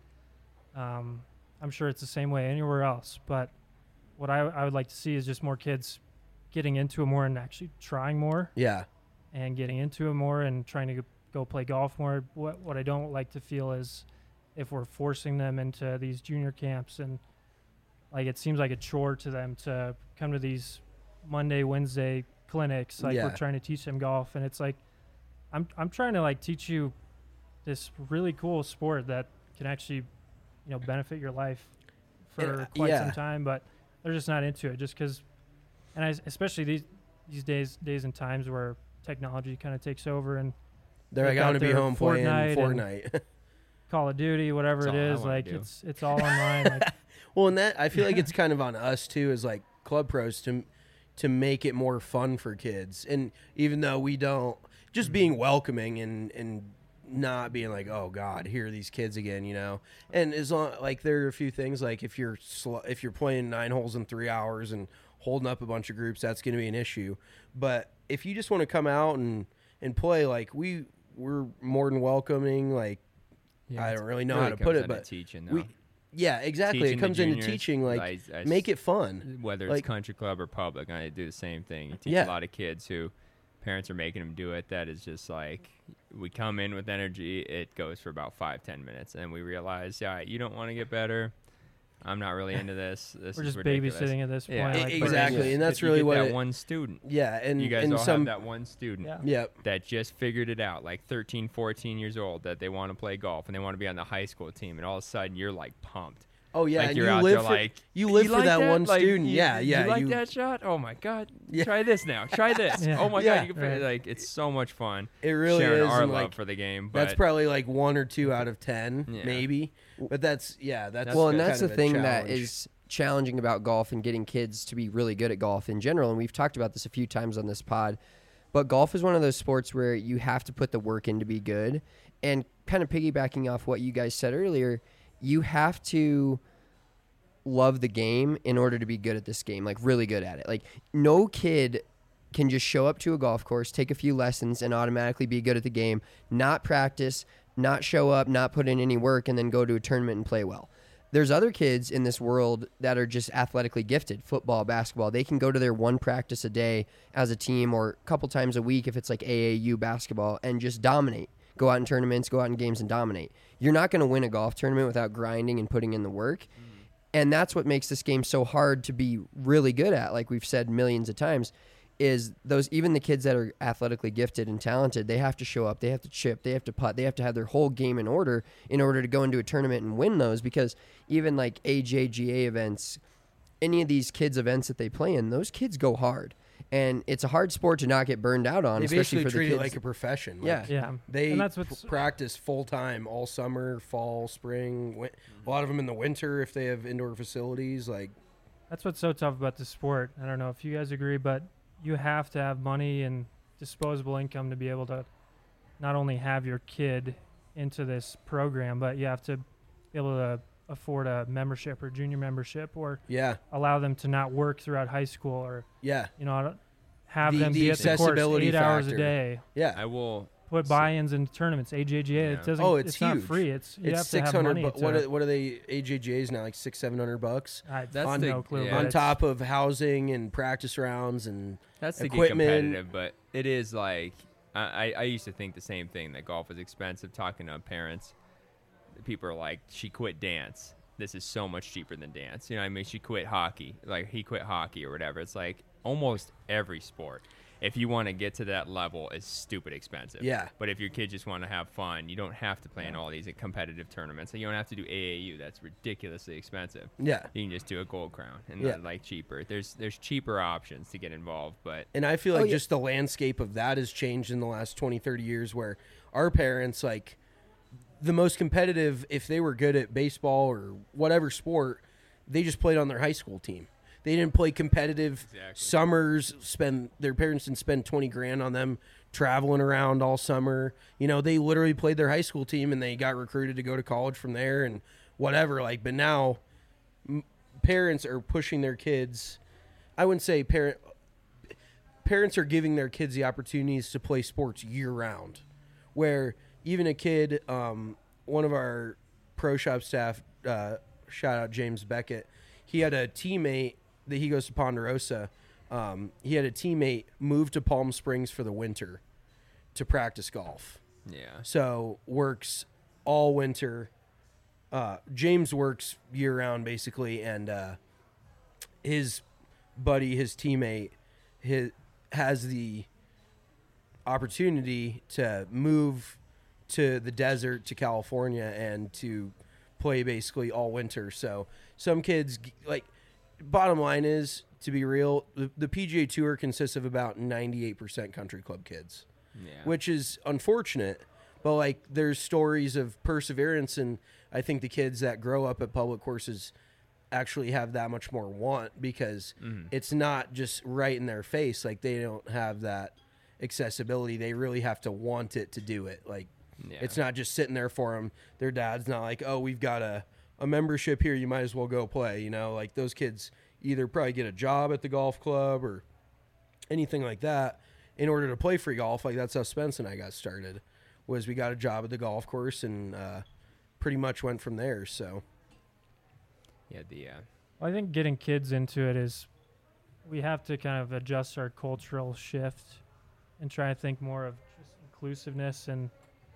I'm sure it's the same way anywhere else. But what I would like to see is just more kids getting into it more and actually trying more yeah, and getting into it more and trying to go play golf more. What I don't like to feel is if we're forcing them into these junior camps and like it seems like a chore to them to come to these Monday, Wednesday clinics. Like Yeah. we're trying to teach them golf, and it's like I'm trying to like teach you this really cool sport that can actually, you know, benefit your life for quite yeah. some time, but they're just not into it just because. And especially these days and times where technology kind of takes over and they're like, got I want to be their home playing Fortnite Fortnite. Call of Duty, whatever That's it all I is, wanna like do. it's all online. Like, Well, and that I feel like it's kind of on us too, as like club pros, to make it more fun for kids. And even though we don't, just being welcoming and not being like, oh God, here are these kids again, you know. And as long like there are a few things like if you're playing 9 holes in 3 hours and holding up a bunch of groups, that's going to be an issue. But if you just want to come out and play, like we're more than welcoming. Like I don't really know how to put it, but teaching, though. yeah, exactly. Teaching It the comes into juniors, teaching, like I make it fun. whether it's like- country club or public, I do the same thing. You teach Yeah. a lot of kids who parents are making them do it. That is just like we come in with energy. It goes for about 5-10 minutes, and we realize, yeah, you don't want to get better. I'm not really into this. This we're is just ridiculous. babysitting at this point. Yeah. like, but Exactly, and that's You really get what that it- one student. Yeah, and You guys and all some have that one student Yeah. Yep. that just figured it out, like 13, 14 years old, that they want to play golf and they want to be on the high school team, and all of a sudden you're like pumped. Oh yeah, Like and you're you out live there for like you live for like that one Like, student. you- Yeah, yeah. You like that shot? Oh my god! Yeah. Try this now. Try this. Yeah. Oh my Yeah. god! You can Right. like it's so much fun. It really sharing is. our and, love like, for the game. But that's probably like 1 or 2 out of 10, Yeah. maybe. But that's Well, and kind that's the of a thing that challenge. is challenging about golf and getting kids to be really good at golf in general. And we've talked about this a few times on this pod. But golf is one of those sports where you have to put the work in to be good. And kind of piggybacking off what you guys said earlier, you have to love the game in order to be good at this game, like really good at it. Like no kid can just show up to a golf course, take a few lessons, and automatically be good at the game, not practice, not show up, not put in any work, and then go to a tournament and play well. There's other kids in this world that are just athletically gifted, football, basketball. They can go to their one practice a day as a team or a couple times a week if it's like AAU basketball and just dominate. Go out in tournaments, go out in games and dominate. You're not going to win a golf tournament without grinding and putting in the work. And that's what makes this game so hard to be really good at, like we've said millions of times, is those even the kids that are athletically gifted and talented, they have to show up, they have to chip, they have to putt, they have to have their whole game in order to go into a tournament and win those, because even like AJGA events, any of these kids events that they play in, those kids go hard. and it's a hard sport to not get burned out on, They especially basically for the treat kids. it like a profession. Yeah. Yeah. They and that's what's practice full time all summer, fall, spring. A lot of them in the winter if they have indoor facilities. Like, That's what's so tough about the sport. I don't know if you guys agree, but you have to have money and disposable income to be able to not only have your kid into this program, but you have to be able to afford a membership or junior membership, or yeah, allow them to not work throughout high school, or yeah, have The- them the be at the course accessibility 8 hours a factor. day. yeah. I will. Put buy-ins in tournaments, AJGA. Yeah. It doesn't. Oh, it's not huge. free. It's you It's have to have 600. money. What are they? AJJ's now like $600-700 I That's have the- no clue. yeah. but on it's- top of housing and practice rounds and That's to get equipment. competitive, but it is like I used to think the same thing, that golf was expensive. Talking to parents, people are like, she quit dance. This is so much cheaper than dance. You know what I mean? She quit hockey. Like, he quit hockey or whatever. It's like almost every sport, if you want to get to that level, is stupid expensive. Yeah. But if your kids just want to have fun, you don't have to play in all these competitive tournaments. And you don't have to do AAU. That's ridiculously expensive. yeah. You can just do a Gold Crown and Yeah. like cheaper. There's cheaper options to get involved, but And I feel like yeah. just the landscape of that has changed in the last 20, 30 years, where our parents, like, the most competitive, if they were good at baseball or whatever sport, they just played on their high school team. They didn't play competitive summers, their parents didn't spend 20 grand on them traveling around all summer. You know, they literally played their high school team and they got recruited to go to college from there and whatever. Like, but now parents are pushing their kids. I wouldn't say parents are giving their kids the opportunities to play sports year round, where even a kid, one of our pro shop staff, shout out James Beckett, he had a teammate that he goes to Ponderosa. He had a teammate move to Palm Springs for the winter to practice golf. yeah. So works all winter. James works year round basically, and his buddy, his teammate, has the opportunity to move to the desert to California and to play basically all winter. So some kids, like, bottom line is, to be real, the PGA Tour consists of about 98% country club kids, Yeah. which is unfortunate. But, like, there's stories of perseverance, and I think the kids that grow up at public courses actually have that much more want, because it's not just right in their face. Like, they don't have that accessibility. They really have to want it to do it. Like, Yeah. it's not just sitting there for them. Their dad's not like, oh, we've got a membership here, you might as well go play. You know, like, those kids either probably get a job at the golf club or anything like that in order to play free golf. Like, that's how Spence and I got started, was we got a job at the golf course and pretty much went from there. So Yeah, I think getting kids into it is, we have to kind of adjust our cultural shift and try to think more of just inclusiveness and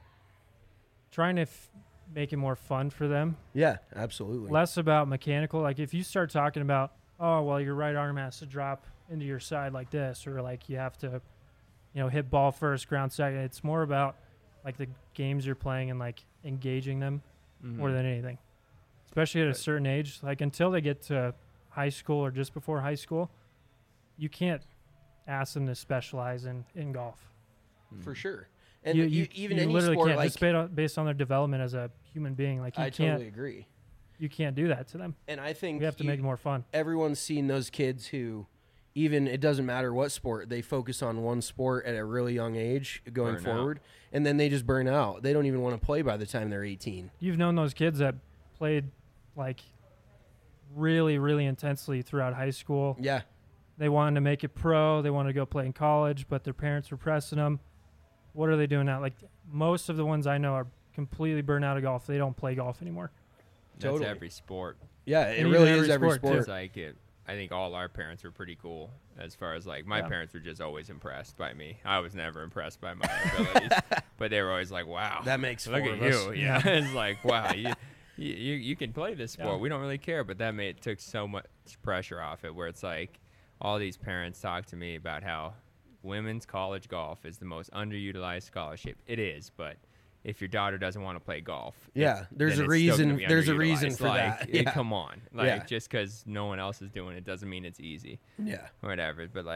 trying to make it more fun for them. yeah, absolutely. Less about mechanical. Like, if you start talking about, oh, well, your right arm has to drop into your side like this, or like you have to, hit ball first, ground second. It's more about like the games you're playing and like engaging them more than anything. Especially at a certain age, like until they get to high school or just before high school, you can't ask them to specialize in golf. For sure. And you even you any literally sport, can't, like, just based on their development as a human being. Like, you I can't totally agree. you can't do that to them. And I think We have to make it more fun. everyone's seen those kids who, even, it doesn't matter what sport, they focus on one sport at a really young age going Burn out. forward, and then they just burn out. They don't even want to play by the time they're 18. You've known those kids that played like really, really intensely throughout high school. Yeah. They wanted to make it pro. They wanted to go play in college, but their parents were pressing them. What are they doing now? Like, most of the ones I know are completely burned out of golf. They don't play golf anymore. That's Totally. every sport. Yeah, it And really even is every every sport, too. sport. It's like it. I think all our parents were pretty cool, as far as like my Yeah. parents were just always impressed by me. I was never impressed by my abilities, but they were always like, "Wow, That makes look four at of us." you." Yeah, it's like, wow, you can play this sport. Yeah. We don't really care, but that took so much pressure off it. Where it's like, all these parents talk to me about how women's college golf is the most underutilized scholarship. It is, but if your daughter doesn't want to play golf, Yeah, there's then a it's still reason- gonna be there's a reason underutilized. for Like, that. Yeah. come on, like Yeah. just because no one else is doing it doesn't mean it's easy Yeah. or whatever. But like,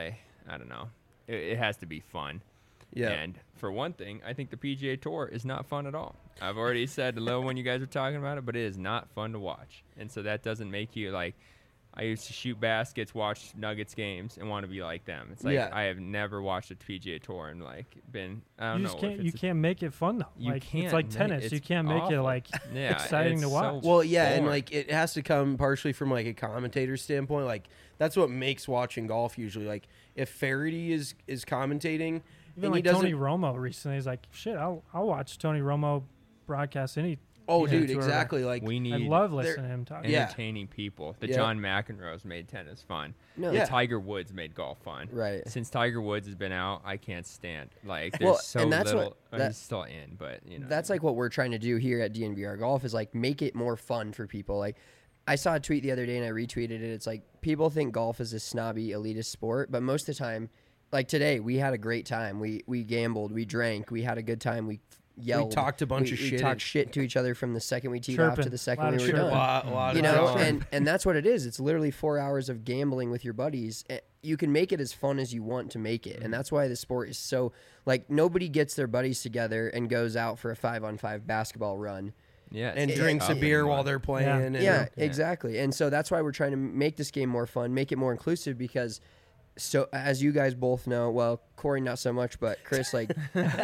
I don't know. It has to be fun. Yeah. And for one thing, I think the PGA Tour is not fun at all. I've already said a little when you guys were talking about it, but it is not fun to watch. And so that doesn't make you like. I used to shoot baskets, watch Nuggets games, and want to be like them. It's like I have never watched a PGA Tour and like been. I don't know. You can't make it fun though. You like, can't. It's like tennis. You can't make it awful. like Yeah, exciting it's to watch. so Well, yeah, and boring. like it has to come partially from like a commentator standpoint. Like that's what makes watching golf usually. Like if Faraday is commentating, Even and he like doesn't. Tony Romo recently is like, shit, I'll watch Tony Romo broadcast any. Oh, PGA dude, Tour exactly. Like we I need love listening to him talk. Yeah. entertaining people. The Yeah. John McEnroes made tennis fun. No. The Yeah. Tiger Woods made golf fun. Right. Since Tiger Woods has been out, I can't stand. Like there's Well, so and that's little. what- that- he's still in, but you know. That's like what we're trying to do here at DNVR Golf is like make it more fun for people. Like I saw a tweet the other day and I retweeted it. It's like people think golf is a snobby elitist sport, but most of the time, like today, we had a great time. We gambled, we drank, we had a good time. We yelled. talked a bunch of We shit. talked shit to each other from the second we teed off to Chirping. the second Lot we of were chirping. done. a lot You of know, drama. and that's what it is. It's literally 4 hours of gambling with your buddies. You can make it as fun as you want to make it, and that's why the sport is so like nobody gets their buddies together and goes out for a 5-on-5 basketball run. yeah, it's and tough drinks a anymore. beer while they're playing. Yeah. And, Yeah, exactly. And so that's why we're trying to make this game more fun, make it more inclusive because so as you guys both know, well, Corey not so much, but Chris like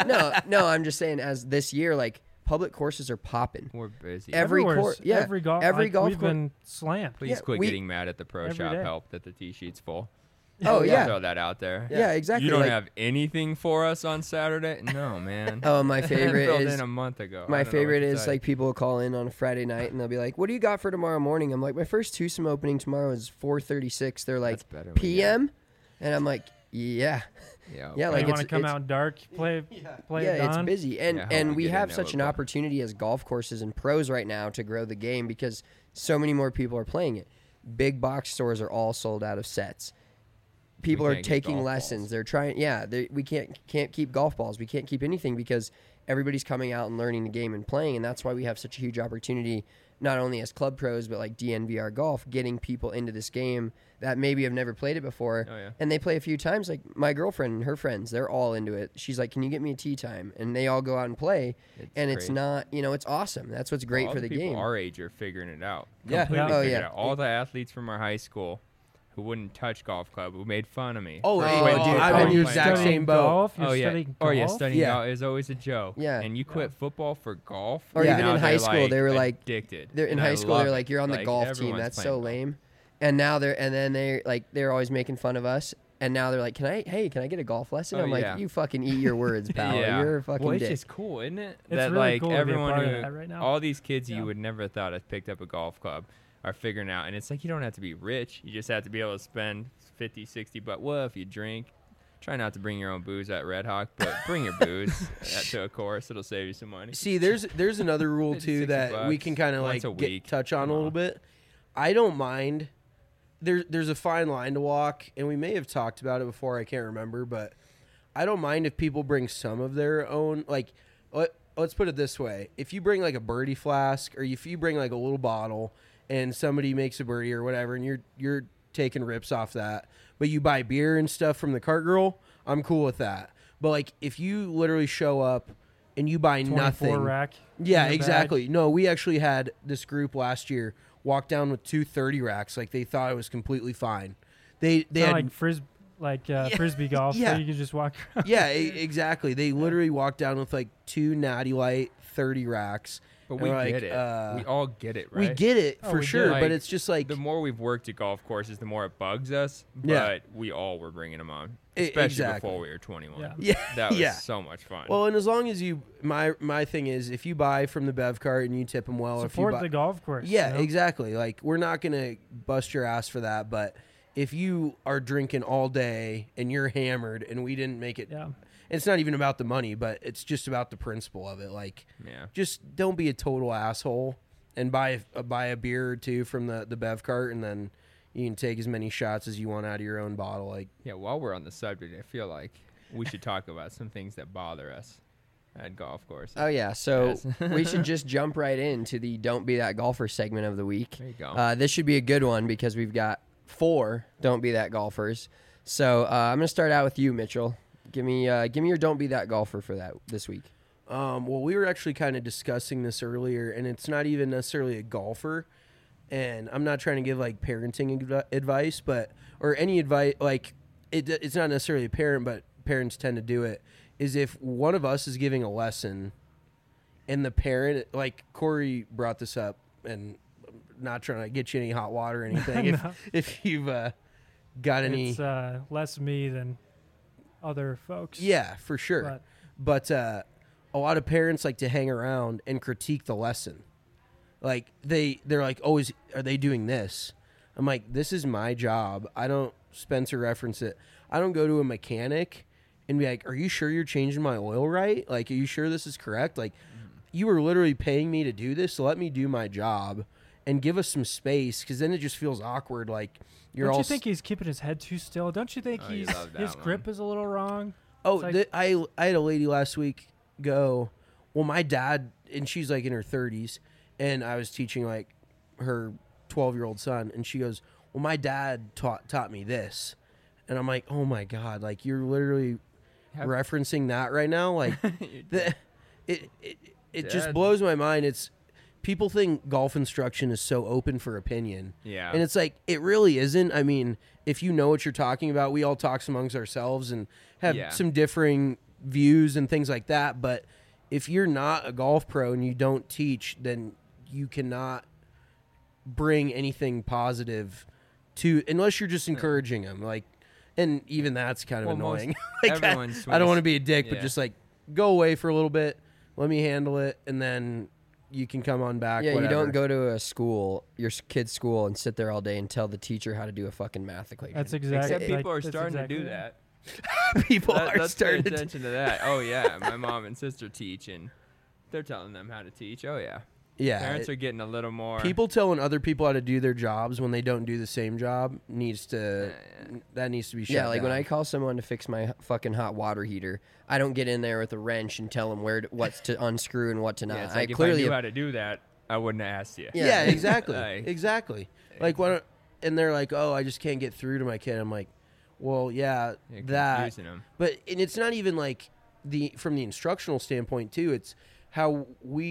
no, I'm just saying as this year like public courses are popping. We're busy. Every Everywhere's- court, yeah, every golf, every like, golf we've course. been slammed. Please yeah, quit we- getting mad at the pro Every shop day. help that the tee sheet's full. Oh yeah. Throw that out there. Yeah, exactly. You don't like, have anything for us on Saturday? No, man. Oh, my favorite filled is in a month ago. I my don't know what favorite to is tell you. like people will call in on a Friday night and they'll be like, "What do you got for tomorrow morning?" I'm like, "My first twosome opening tomorrow is 4:36." They're like, That's better when you "PM?" And I'm like, "Yeah, Yeah, yeah." Oh, Like you want to it's come it's- out dark, play yeah, at it's dawn? busy, and Yeah, how and we we get have in such an Liverpool. opportunity as golf courses and pros right now to grow the game because so many more people are playing it. Big box stores are all sold out of sets. People are can't get taking golf lessons. balls. They're trying. Yeah, we can't keep golf balls. We can't keep anything because everybody's coming out and learning the game and playing, and that's why we have such a huge opportunity. Not only as club pros, but like DNVR Golf, getting people into this game that maybe have never played it before, Oh, yeah. and they play a few times. Like my girlfriend and her friends, they're all into it. She's like, "Can you get me a tee time?" And they all go out and play, and it's great. not, it's awesome. That's what's great All for the people game. Our age are figuring it out. Yeah. Completely Oh, figured yeah. it out. All the athletes from our high school who wouldn't touch golf club, who made fun of me. Oh, Oh, hey, dude, I'm oh, in the you're exact studying same boat. golf? You're Oh yeah. studying Oh yeah, golf? studying Yeah. golf is always a joke. Yeah. And you quit football for golf. Or Yeah. even Now in high they're, school, they were like addicted. They're in And high I school. love They're it. like, "You're on the Like, golf team. everyone's That's playing so golf. lame." And now they're always making fun of us. And now they're like, "Can I get a golf lesson?" Oh, I'm like, yeah. "You fucking eat your words, pal. Yeah. You're a fucking well, it's dick." just cool, isn't it? It's that really like cool to be a everyone part of who, that right now. all these kids Yeah. you would never have thought have picked up a golf club are figuring out, and it's like you don't have to be rich. You just have to be able to spend 50, 60 bucks. Well, if you drink, try not to bring your own booze at Red Hawk, but bring your booze to a course. It'll save you some money. See, there's another rule It's too 60 that we bucks can kind of once like a week. touch on Come a little on. bit. I don't mind. There's a fine line to walk, and we may have talked about it before. I can't remember, but I don't mind if people bring some of their own. Like, let's put it this way: if you bring like a birdie flask, or if you bring like a little bottle, and somebody makes a birdie or whatever, and you're taking rips off that, but you buy beer and stuff from the cart girl, I'm cool with that. But like, if you literally show up and you buy 24 nothing, rack. yeah, in the bag. exactly. No, we actually had this group last year walk down with 230 racks. Like they thought it was completely fine. They It's not had like frisbee golf. yeah. Where you can just walk around. yeah, exactly. They literally walked down with like 2 Natty Light 30 racks. But And we we're like, get it. We all get it, right? We get it Oh, for we sure, do. but Like, it's just like the more we've worked at golf courses, the more it bugs us. But Yeah. we all were bringing them on, E- especially exactly. before we were 21. Yeah. Yeah, That was yeah. so much fun. Well, and as long as you, my thing is, if you buy from the Bev cart and you tip them well, Support if you buy, the golf course. yeah, you know? exactly. Like we're not gonna bust your ass for that, but if you are drinking all day and you're hammered and we didn't make it, Yeah. it's not even about the money, but it's just about the principle of it. Like, yeah. just don't be a total asshole and buy a beer or two from the Bev cart, and then you can take as many shots as you want out of your own bottle. Like, Yeah, while we're on the subject, I feel like we should talk about some things that bother us at golf courses. Oh yeah, so Yes. we should just jump right into the "Don't Be That Golfer" segment of the week. There you go. This should be a good one because we've got 4 "Don't Be That Golfers." So I'm gonna start out with you, Mitchell. Give me your don't be that golfer for that this week. Well, we were actually kind of discussing this earlier, and it's not even necessarily a golfer. And I'm not trying to give like parenting advice, or any advice. Like it's not necessarily a parent, but parents tend to do it. Is if one of us is giving a lesson, and the parent, like Corey brought this up, and I'm not trying to get you any hot water or anything. No. If you've got any, It's less me than other folks. yeah, for sure. But a lot of parents like to hang around and critique the lesson. Like they're like, oh, are they doing this? I'm like, this is my job. I don't Spencer reference it. I don't go to a mechanic and be like, are you sure you're changing my oil right? Like, are you sure this is correct? Like, you were literally paying me to do this, so let me do my job and give us some space, because then it just feels awkward. Like Don't you think he's keeping his head too still? Don't you think you love that his one. grip is a little wrong? Oh, It's like- I had a lady last week go, well, my dad, and she's like in her 30s, and I was teaching like her 12-year-old son, and she goes, well, my dad taught me this. And I'm like, oh my God, like you're literally referencing that right now? Like it just Dad. blows my mind. It's people think golf instruction is so open for opinion. Yeah. And it's like, it really isn't. I mean, if you know what you're talking about, we all talk amongst ourselves and have Yeah. some differing views and things like that. But if you're not a golf pro and you don't teach, then you cannot bring anything positive to, unless you're just encouraging them. Like, and even that's kind of Well, most- annoying. Like, everyone I don't want to swings- be a dick, but yeah. just like go away for a little bit, let me handle it, and then you can come on back. Yeah, whatever. you don't go to a school, your kid's school, and sit there all day and tell the teacher how to do a fucking math equation. That's exactly. Except people are that's starting exactly to do right. that. People are Let's pay starting to. attention to that. Oh yeah, my mom and sister teach, and they're telling them how to teach. Oh yeah, Yeah, parents are getting a little more. people telling other people how to do their jobs when they don't do the same job needs to. That needs to be shut Yeah, like when down. I call someone to fix my fucking hot water heater, I don't get in there with a wrench and tell them what's to unscrew and what to not. Yeah, it's I like if I clearly knew how to do that, I wouldn't have asked you. Yeah, exactly, Like- exactly. Like when, and they're like, "Oh, I just can't get through to my kid." I'm like, "Well, yeah, You're that." confusing 'em. But and it's not even like from the instructional standpoint too. It's how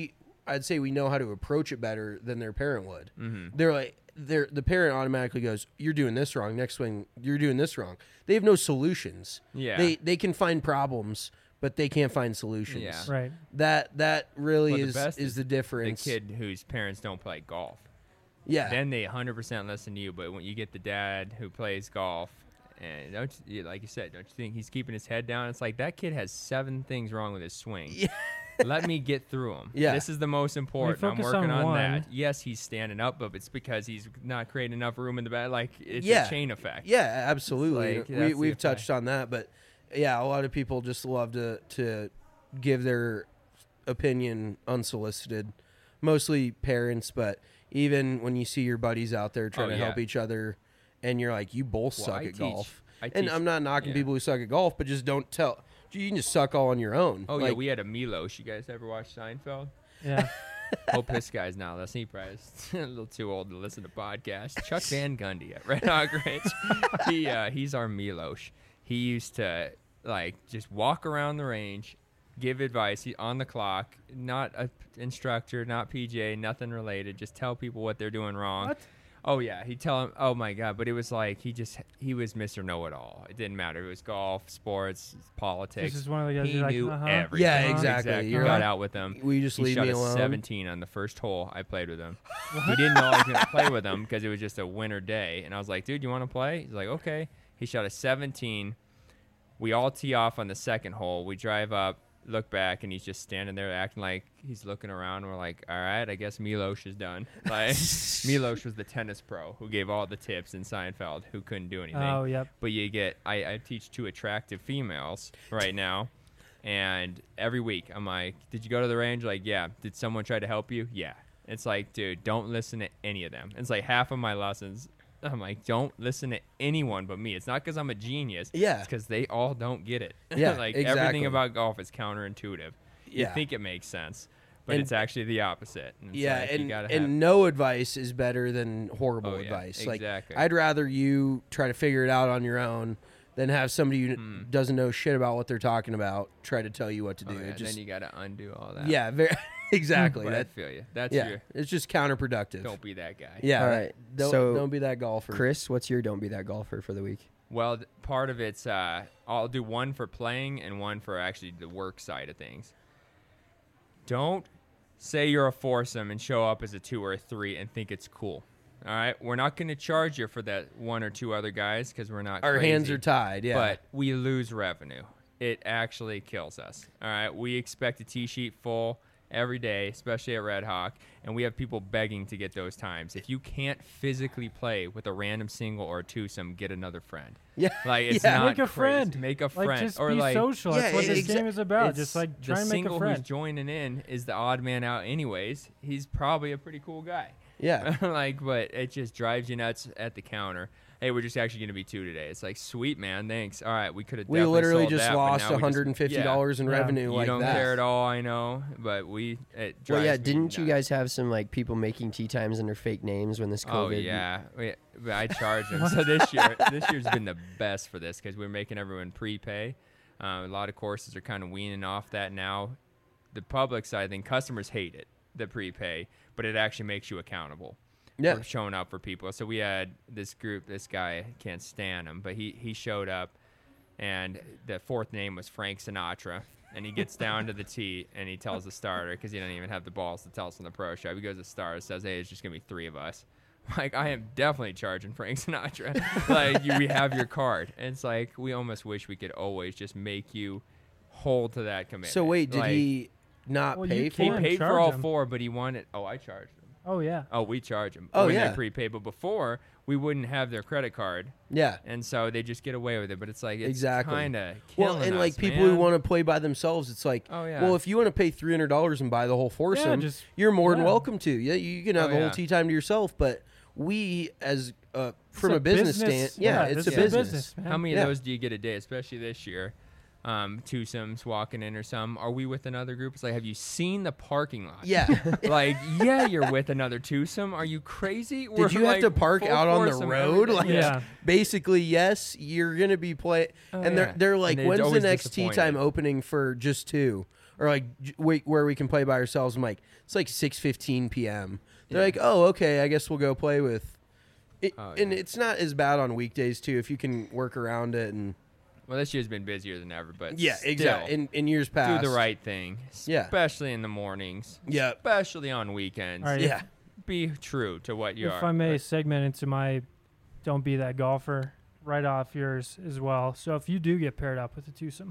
I'd say we know how to approach it better than their parent would. Mm-hmm. They're like, the parent automatically goes, "You're doing this wrong. Next swing, you're doing this wrong." They have no solutions. Yeah. They can find problems, but they can't find solutions. Yeah. Right. That really But the is best the The difference. kid whose parents don't play golf, Yeah. then they 100% listen to you. But when you get the dad who plays golf, and like you said, don't you think he's keeping his head down? It's like that kid has 7 things wrong with his swing. Yeah. Let me get through them. Yeah. This is the most important. I'm focus working on on one- that. Yes, he's standing up, but it's because he's not creating enough room in the back. Like it's Yeah. a chain effect. Yeah, absolutely. Like, that's the We've effect. touched on that, but yeah, a lot of people just love to give their opinion unsolicited. Mostly parents, but even when you see your buddies out there trying Oh, to yeah. help each other, and you're like, you both Well, suck I at teach- golf. I And teach- I'm not knocking yeah. people who suck at golf, but just don't tell. You can just suck all on your own. Oh yeah, Like, we had a Milos. You guys ever watch Seinfeld? Yeah. Hope this guy's not listening. He probably is a little too old to listen to podcasts. Chuck Van Gundy at Red Hawk Ranch. He's our Milos. He used to like just walk around the range, give advice. He on the clock, not a instructor, not PJ, nothing related. Just tell people what they're doing wrong. What? Oh yeah, he'd tell him. Oh my god, but it was like he was Mr. Know-It-all. It didn't matter. It was golf, sports, politics. This is one of the guys he you're like, knew uh-huh. everything. Yeah, exactly. You You're got like, out with him. will you just He leave shot me a alone? 17 on the first hole I played with him. He didn't know I was going to play with him because it was just a winter day. And I was like, dude, you want to play? He's like, okay. He shot a 17. We all tee off on the second hole. We drive up, look back, and he's just standing there acting like he's looking around. We're like, all right, I guess Milos is done. Like, Milos was the tennis pro who gave all the tips in Seinfeld who couldn't do anything. Oh, yep. But you get, I teach 2 attractive females right now. And every week I'm like, did you go to the range? Like, yeah. Did someone try to help you? Yeah. It's like, dude, don't listen to any of them. It's like half of my lessons. I'm like, don't listen to anyone but me. It's not because I'm a genius. Yeah. It's because they all don't get it. Yeah, like exactly. everything about golf is counterintuitive. You Yeah. think it makes sense, but And- it's actually the opposite. And it's Yeah, like, you and gotta have, no advice is better than horrible Oh, yeah, advice. exactly. Like, I'd rather you try to figure it out on your own than have somebody who doesn't know shit about what they're talking about try to tell you what to do. Oh, yeah, It just, then you got to undo all that. yeah, very, exactly. But I That, feel you. That's yeah, your. it's just counterproductive. Don't be that guy. Yeah, All right, Don't, so don't be that golfer. Chris, what's your don't be that golfer for the week? Well, part of it's I'll do one for playing and one for actually the work side of things. Don't say you're a foursome and show up as a 2 or a 3 and think it's cool. All right, we're not going to charge you for that 1 or 2 other guys because we're not. Our crazy, hands are tied. Yeah, but we lose revenue. It actually kills us. All right, we expect a tee sheet full every day, especially at Red Hawk, and we have people begging to get those times. If you can't physically play with a random single or a twosome, get another friend. yeah, Like it's yeah. not Make a crazy. friend. Make a Like, friend, just or be like social. Yeah, That's what this exa- game is about. it's Just like the try and make single a who's friend. joining in is the odd man out, anyways. He's probably a pretty cool guy. Yeah. Like, but it just drives you nuts at the counter. Hey, we're just actually going to be 2 today. It's like, sweet, man, thanks. All right, we could have. We literally sold just that, but lost now we just- $150 in Yeah. revenue You like don't that. care at all, I know, but it Well, drives yeah, me didn't you nuts. guys have some like people making tea times under fake names when this COVID? Oh yeah, but I charge them. So this year's been the best for this because we're making everyone prepay. A lot of courses are kind of weaning off that now. The public side, I think customers hate it, the prepay, but it actually makes you accountable. Yeah. For showing up for people. So we had this group. This guy, can't stand him, but he showed up, and the 4th name was Frank Sinatra. And he gets down to the tee, and he tells the starter, because he doesn't even have the balls to tell us in the pro shop. He goes to the starter, says, "Hey, it's just going to be 3 of us." Like, I am definitely charging Frank Sinatra. Like, we have your card. And it's like, we almost wish we could always just make you hold to that commitment. So wait, did Like, he not Well, pay you for He can't it? paid for charge all him. 4, but he wanted. Oh, I charged him. Oh yeah. Oh, we charge them. Oh, when yeah. they prepay, but before we wouldn't have their credit card, Yeah. and so they just get away with it. But it's like it's Exactly. kind of Well, and like people who want to play by themselves, it's like, Oh, yeah. well, if you want to pay $300 and buy the whole foursome, just- you're more than yeah. welcome to. Yeah, you can have Oh, the whole yeah. tea time to yourself. But we, as from a business stand, it's a this is business. man. How many Yeah. of those do you get a day, especially this year? Twosomes walking in or some. Are we with another group? It's like, have you seen the parking lot? Yeah. Like, yeah, you're with another twosome. Are you crazy? Did you have to park out on the road? Like, Yeah. basically, yes, you're gonna be play. Oh, and yeah. they're like, And they're when's the always next tea time disappointed. opening for just 2, or like where we can play by ourselves? I'm like, it's like 6:15 p.m. They're Yeah. like, oh, okay, I guess we'll go play with. It, Oh, And yeah. it's not as bad on weekdays too if you can work around it and Well, this year's been busier than ever, but yeah, still, exactly. In years past, do the right thing, Yeah. especially in the mornings, Yeah. especially on weekends. All right, Yeah, Be true to what you If are. I may But- segment into my don't be that golfer right off yours as well. So if you do get paired up with a twosome,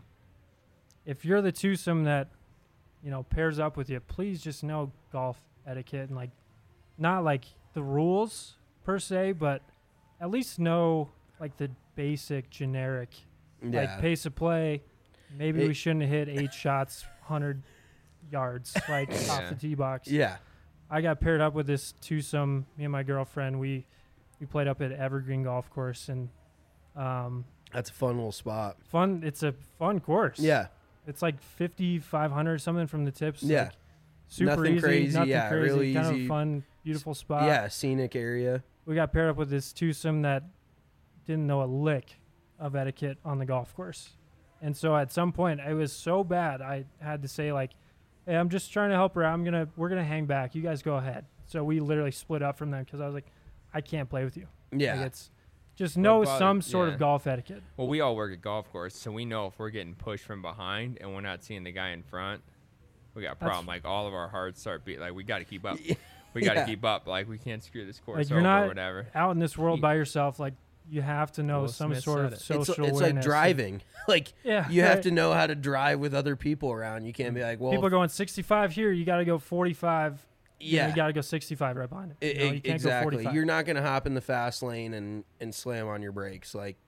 if you're the twosome that, pairs up with you, please just know golf etiquette and like not like the rules per se, but at least know like the basic generic yeah. like pace of play. Maybe It- we shouldn't have hit 8 shots 100 yards like off Yeah. the tee box. Yeah. I got paired up with this twosome. Me and my girlfriend, we played up at Evergreen Golf Course, and That's a fun little spot. fun. It's a fun course. Yeah. It's like 5,500 something from the tips. Yeah. like super Nothing easy, crazy, nothing yeah, crazy. really kind easy. of fun, beautiful spot. Yeah, scenic area. We got paired up with this twosome that didn't know a lick of etiquette on the golf course, and so at some point it was so bad I had to say like, "Hey, I'm just trying to help her out. We're gonna hang back. You guys go ahead." So we literally split up from them because I was like, "I can't play with you." Yeah. Like it's just know bother- some sort yeah. of golf etiquette. Well, we all work at golf course, so we know if we're getting pushed from behind and we're not seeing the guy in front, we got a That's- problem. Like all of our hearts start beating. Like we got to keep up. We got to Yeah. keep up. Like we can't screw this course Like over you're not or whatever. out in this world by yourself. Like you have to know Will some Smith sort said of it. social It's like awareness. driving. Like Yeah, you have right. to know how to drive with other people around. You can't be like, well, People going 65 here. You got to go 45. yeah, You got to go 65 right behind it. You know, you can't exactly. go 45. You're not gonna hop in the fast lane and slam on your brakes. Like,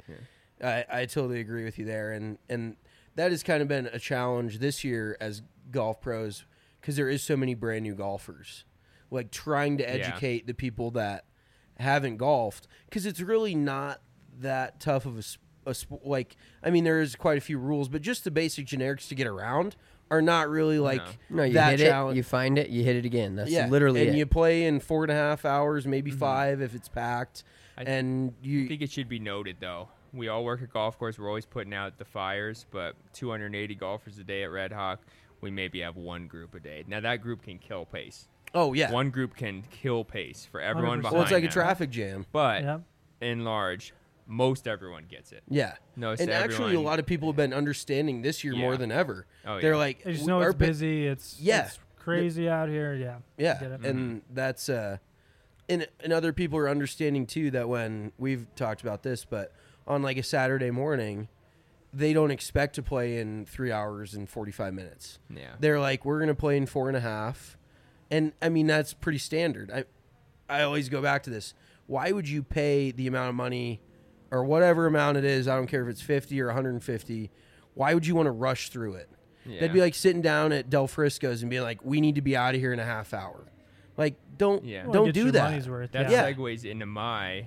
I totally agree with you there, and that has kind of been a challenge this year as golf pros because there is so many brand new golfers. Like trying to educate the people that haven't golfed because it's really not that tough of like. I mean, there is quite a few rules, but just the basic generics to get around are not really like No, you that hit challenge. it, you find it, you hit it again. That's Yeah, literally and it. you play in 4.5 hours, maybe Mm-hmm. 5 if it's packed, I and I you think it should be noted though, we all work at golf course. We're always putting out the fires, but 280 golfers a day at Red Hawk, we maybe have one group a day. Now, that group can kill pace. Oh, yeah. One group can kill pace for everyone 100%. behind Well, it's like a them. traffic jam. But Yep. in large, most everyone gets it. Yeah. No, And actually, a lot of people have been understanding this year more Yeah. than ever. Oh, They're yeah. like, They just know our it's pa- busy. It's crazy out here. Yeah. Yeah, Get it. and that's and other people are understanding too that when we've talked about this, but on like a Saturday morning, they don't expect to play in 3 hours and 45 minutes. Yeah. They're like, we're gonna play in 4.5, and I mean that's pretty standard. I always go back to this. Why would you pay the amount of money, or whatever amount it is? I don't care if it's 50 or 150. Why would you want to rush through it? Yeah. That'd be like sitting down at Del Frisco's and being like, we need to be out of here in a half hour. Like, don't Yeah. Well, don't get do your that. money's worth. That Yeah. segues into my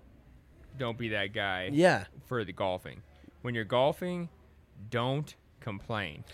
don't be that guy Yeah, for the golfing. When you're golfing, don't complain.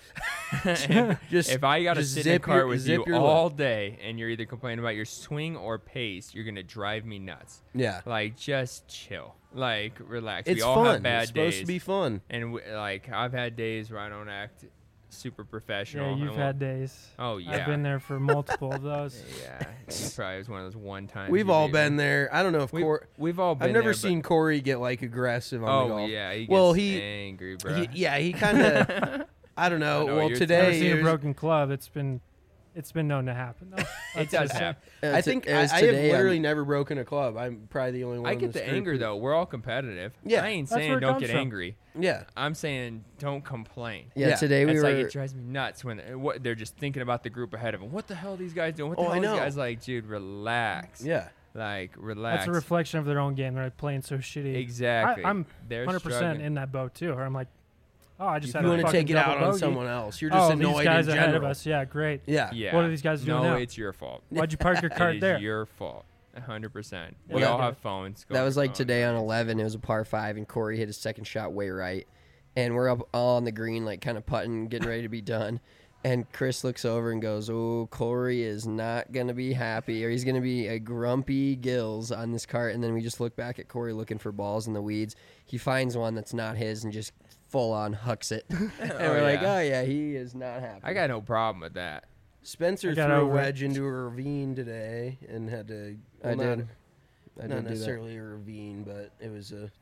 just If I got to just sit in a zip cart your- with zip you your all lip. day and you're either complaining about your swing or pace, you're going to drive me nuts. Yeah, Like, just chill. Like, relax. it's we all fun. have bad It's supposed days. to be fun. And, like, I've had days where I don't act super professional. Yeah, I you've won't- had days. Oh, yeah. I've been there for multiple of those. Yeah. It probably was one of those one times. We've you all made been me. there. I don't know if We've all been I've never there, but- seen Corey get like aggressive on the Oh, golf. yeah. He gets Well, he- angry, bro. He kind of. I don't know. I know Well, you're- I've today seen it a was- broken club. It's been known to happen. Though. It Let's does just say. happen. I think I have literally never broken a club. I'm probably the only one. I in get this the group anger who- though. We're all competitive. Yeah. I ain't That's where saying it don't comes get from. angry. Yeah, I'm saying don't complain. Yeah, today we It's were. like it drives me nuts when what they're just thinking about the group ahead of them. What the hell are these guys doing? What the Oh, hell I are these know. guys like? Dude, relax. yeah. Like relax. That's a reflection of their own game. They're like playing so shitty. Exactly. I'm They're 100% struggling. in that boat too. Or I'm like, oh, I just If had you a want to fucking take it out double on bogey. someone else, you're just Oh, annoyed these guys in ahead of general. us. Yeah, great. Yeah. Yeah. What are these guys doing No, now? it's your fault. Why'd you park your It cart is there? your fault. 100%. Yeah, We I all get have it. phones. Go That on was your like phone. today on 11. It was a par 5, and Corey hit his second shot way right. And we're up all on the green, like kind of putting, getting ready to be done. And Chris looks over and goes, "Oh, Corey is not going to be happy, or he's going to be a grumpy gills on this cart." And then we just look back at Corey looking for balls in the weeds. He finds one that's not his and just full on hucks it. And we're like, yeah. oh, yeah, he is not happy. I got no problem with that. Spencer I threw got a over it. wedge into a ravine today and had to. I well, did. Not, I not did do that. necessarily a ravine, but it was a.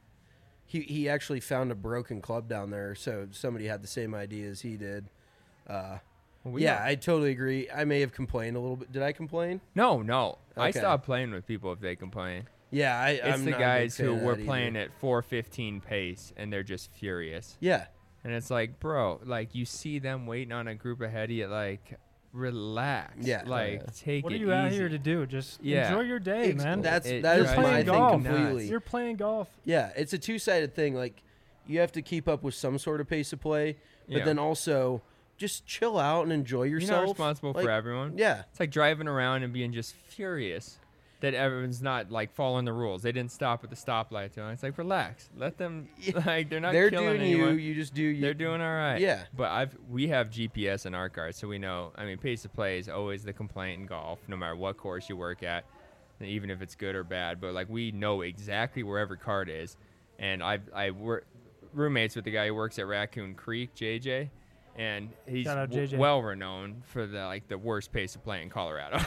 He actually found a broken club down there, so somebody had the same idea as he did. Well, we Yeah, don't- I totally agree. I may have complained a little bit. Did I complain? No. I Okay. stopped playing with people if they complain. Yeah, It's I'm the not a big guys fan who of were that playing either. at 4:15 pace and they're just furious. Yeah, And it's like, bro, like you see them waiting on a group ahead of you, like relax. Yeah. Like take What are it you out easy. here to do? Just Yeah. enjoy your day, man. That's It that is drives my me thing golf. completely. You're playing golf. Yeah, it's a two-sided thing. Like you have to keep up with some sort of pace of play, but Yeah. then also just chill out and enjoy You're yourself. not responsible Like, for everyone. Yeah, It's like driving around and being just furious that everyone's not like following the rules. They didn't stop at the stoplight. So it's like relax. Let them like they're not they're killing doing anyone. you. You just do you. They're doing all right. Yeah. But we have GPS in our cars, so we know. I mean, pace of play is always the complaint in golf, no matter what course you work at, even if it's good or bad. But like we know exactly where every cart is, and I work roommates with the guy who works at Raccoon Creek, JJ, and he's Shout out JJ. well renowned for the worst pace of play in Colorado.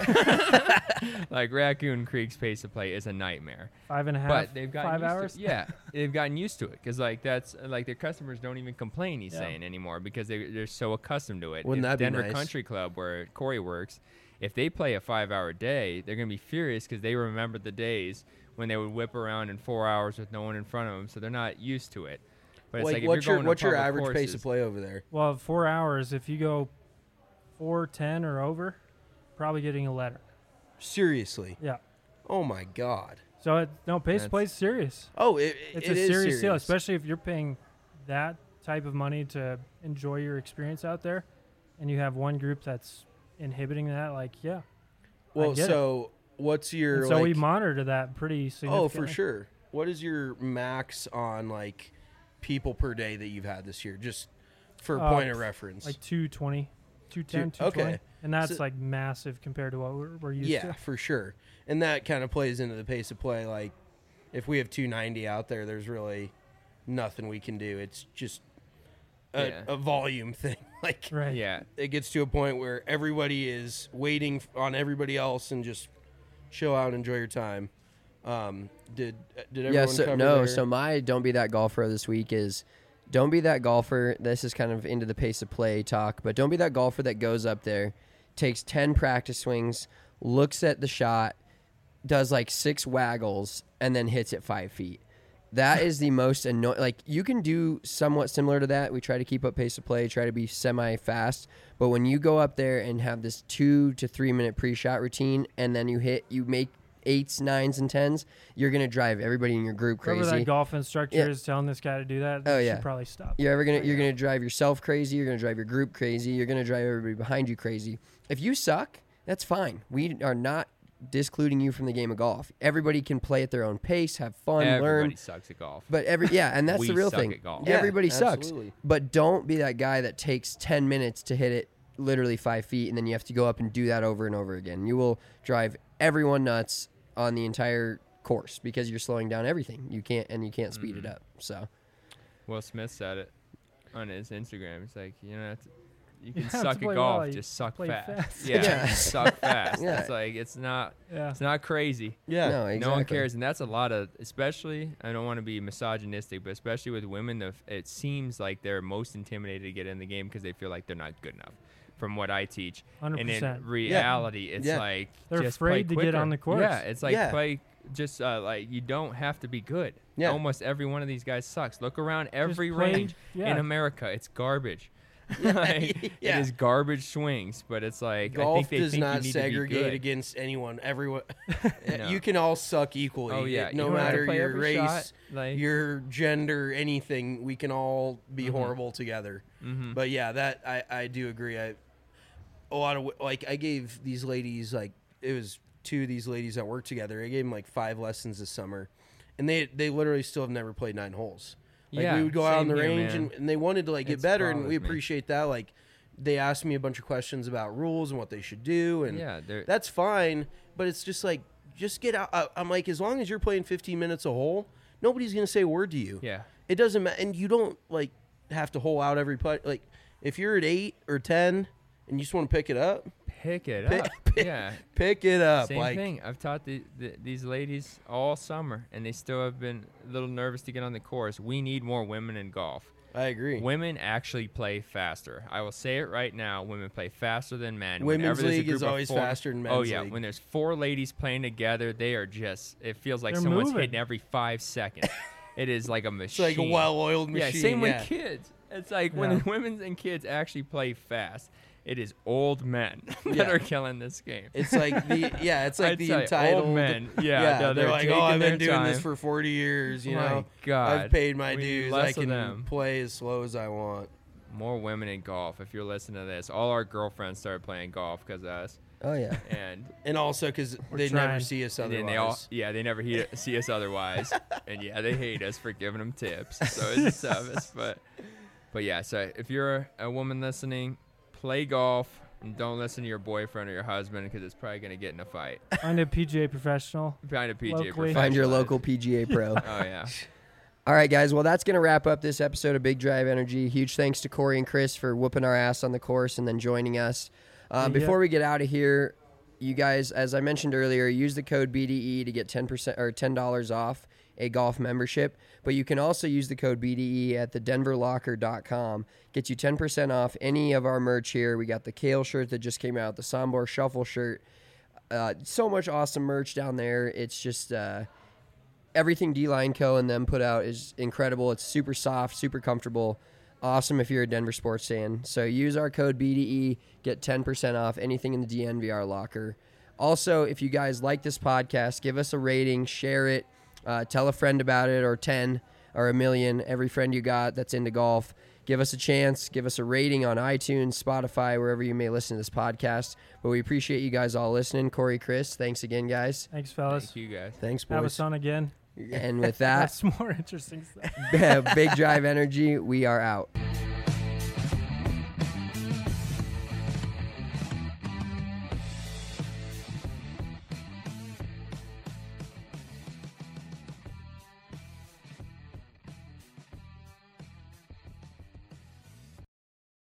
Like Raccoon Creek's pace of play is a nightmare. 5.5. But they've gotten 5 used hours. To, yeah, they've gotten used to it because like that's like their customers don't even complain. He's Yeah. saying anymore because they're so accustomed to it. Wouldn't If that be Denver nice? Country Club where Corey works, if they play a 5-hour day, they're gonna be furious because they remember the days when they would whip around in 4 hours with no one in front of them, so they're not used to it. But it's like like if what's you're your going what's to your public average pace of courses- play over there? Well, 4 hours. If you go 4:10 or over, probably getting a letter. Seriously? Yeah. Oh my god. So pace That's- play's serious. Oh, It's it a is serious deal, especially if you're paying that type of money to enjoy your experience out there, and you have one group that's inhibiting that. Like, yeah. Well, get it. so what's your And so we like, monitor that pretty significantly. Oh, for sure. What is your max on like people per day that you've had this year? Just for a point of reference. Like 220, 210, Two- 220. okay. And that's So- like massive compared to what we're used yeah, to. for sure. And that kind of plays into the pace of play. Like if we have 290 out there, there's really nothing we can do. It's just Yeah. a volume thing. Like, Right. Yeah. it gets to a point where everybody is waiting on everybody else and just chill out and enjoy your time. Did everyone Yeah, so cover no, their- so my don't be that golfer this week is don't be that golfer. This is kind of into the pace of play talk, but don't be that golfer that goes up there, takes 10 practice swings, looks at the shot, does like 6 waggles, and then hits it 5 feet. That is the most annoying. Like, you can do somewhat similar to that. We try to keep up pace of play, try to be semi-fast. But when you go up there and have this 2 to 3 minute pre-shot routine, and then you make 8s, 9s, and 10s, you're going to drive everybody in your group crazy. Whoever that golf instructor Yeah. is telling this guy to do that, Oh, you yeah. should probably stop. You're gonna drive yourself crazy. You're gonna drive your group crazy. You're gonna drive everybody behind you crazy. If you suck, that's fine. We are not discluding you from the game of golf. Everybody can play at their own pace, have fun, Everybody learn. sucks at golf. But and that's We the real suck thing. at golf. Yeah, Everybody sucks. absolutely. But don't be that guy that takes 10 minutes to hit it literally 5 feet, and then you have to go up and do that over and over again. You will drive everyone nuts on the entire course because you're slowing down everything. You can't speed it up. So Will Smith said it on his Instagram. It's like, you know, you can have to suck at play golf, well, you just suck play fast. fast. Yeah, Yeah. just suck fast. Yeah. It's like it's not Yeah. crazy. Yeah. no, exactly. No one cares, and that's a lot of, especially, I don't want to be misogynistic, but especially with women, it seems like they're most intimidated to get in the game because they feel like they're not good enough. From what I teach, and in 100%. reality, it's Yeah. like They're just afraid play to get quicker. on the course. Yeah, it's like Yeah. play. Just like you don't have to be good. Yeah. Almost every one of these guys sucks. Look around every play- range yeah. in America. It's garbage. Like, Yeah. It is garbage swings, but it's like I Golf think they does think not you need segregate to be good. against anyone. Everyone, No. you can all suck equally. Oh yeah, no you don't have to matter play your every race, shot, like, your gender, anything. We can all be horrible together. mhm. But yeah, that I do agree. A lot of like I gave these ladies like it was 2 of these ladies that work together. I gave them like 5 lessons this summer, and they literally still have never played 9 holes. Like Yeah, we would go out on same the here, range man. and they wanted to like get It's better, and bothers we me. appreciate that. Like they asked me a bunch of questions about rules and what they should do, and Yeah, they're- that's fine. But it's just like just get out. I'm like, as long as you're playing 15 minutes a hole, nobody's gonna say a word to you. yeah. It doesn't matter, and you don't like have to hole out every putt. Like if you're at 8 or 10 and you just want to pick it up, Pick it Pick- up. pick- Yeah. pick it up. Same like thing. I've taught these ladies all summer, and they still have been a little nervous to get on the course. We need more women in golf. I agree. Women actually play faster. I will say it right now. Women play faster than men. Women's Whenever there's a league is group of always 4 faster than Oh men's yeah, league. when there's 4 ladies playing together, they are just. It feels like They're someone's moving. hitting every 5 seconds. It is like a It's machine. like a well-oiled machine. Yeah, same yeah. with kids. It's like when Yeah. the women and kids actually play fast. It is old men that Yeah. are killing this game. It's like it's like I'd the say entitled old men. Yeah, no, they're like, taking oh, I've been their doing this time. for 40 years. You My know, God, I've paid my we need dues. less I of can them. play as slow as I want. More women in golf. If you're listening to this, all our girlfriends started playing golf because of us, oh yeah. And also because they trying. never see us and otherwise. then they never see us otherwise, and yeah, they hate us for giving them tips. So it's a service, but yeah. So if you're a woman listening, play golf. And don't listen to your boyfriend or your husband because it's probably going to get in a fight. Find a PGA professional. Find a PGA Locally. professional. Find your local PGA pro. Oh yeah. All right, guys. Well, that's going to wrap up this episode of Big Drive Energy. Huge thanks to Corey and Chris for whooping our ass on the course and then joining us. Before we get out of here, you guys, as I mentioned earlier, use the code BDE to get 10% or $10 off a golf membership. But you can also use the code BDE at thedenverlocker.com. Gets you 10% off any of our merch here. We got the Kale shirt that just came out, the Sombor Shuffle shirt. So much awesome merch down there. It's just everything D-Line Co. and them put out is incredible. It's super soft, super comfortable. Awesome if you're a Denver sports fan. So use our code BDE, get 10% off anything in the DNVR locker. Also, if you guys like this podcast, give us a rating, share it, tell a friend about it, or 10 or a million, every friend you got that's into golf. Give us a chance. Give us a rating on iTunes, Spotify, wherever you may listen to this podcast. But we appreciate you guys all listening. Corey, Chris, thanks again, guys. Thanks, fellas. Thank you guys. Thanks, Have boys. us on again. And with that, That's more interesting stuff. Big Drive Energy, we are out.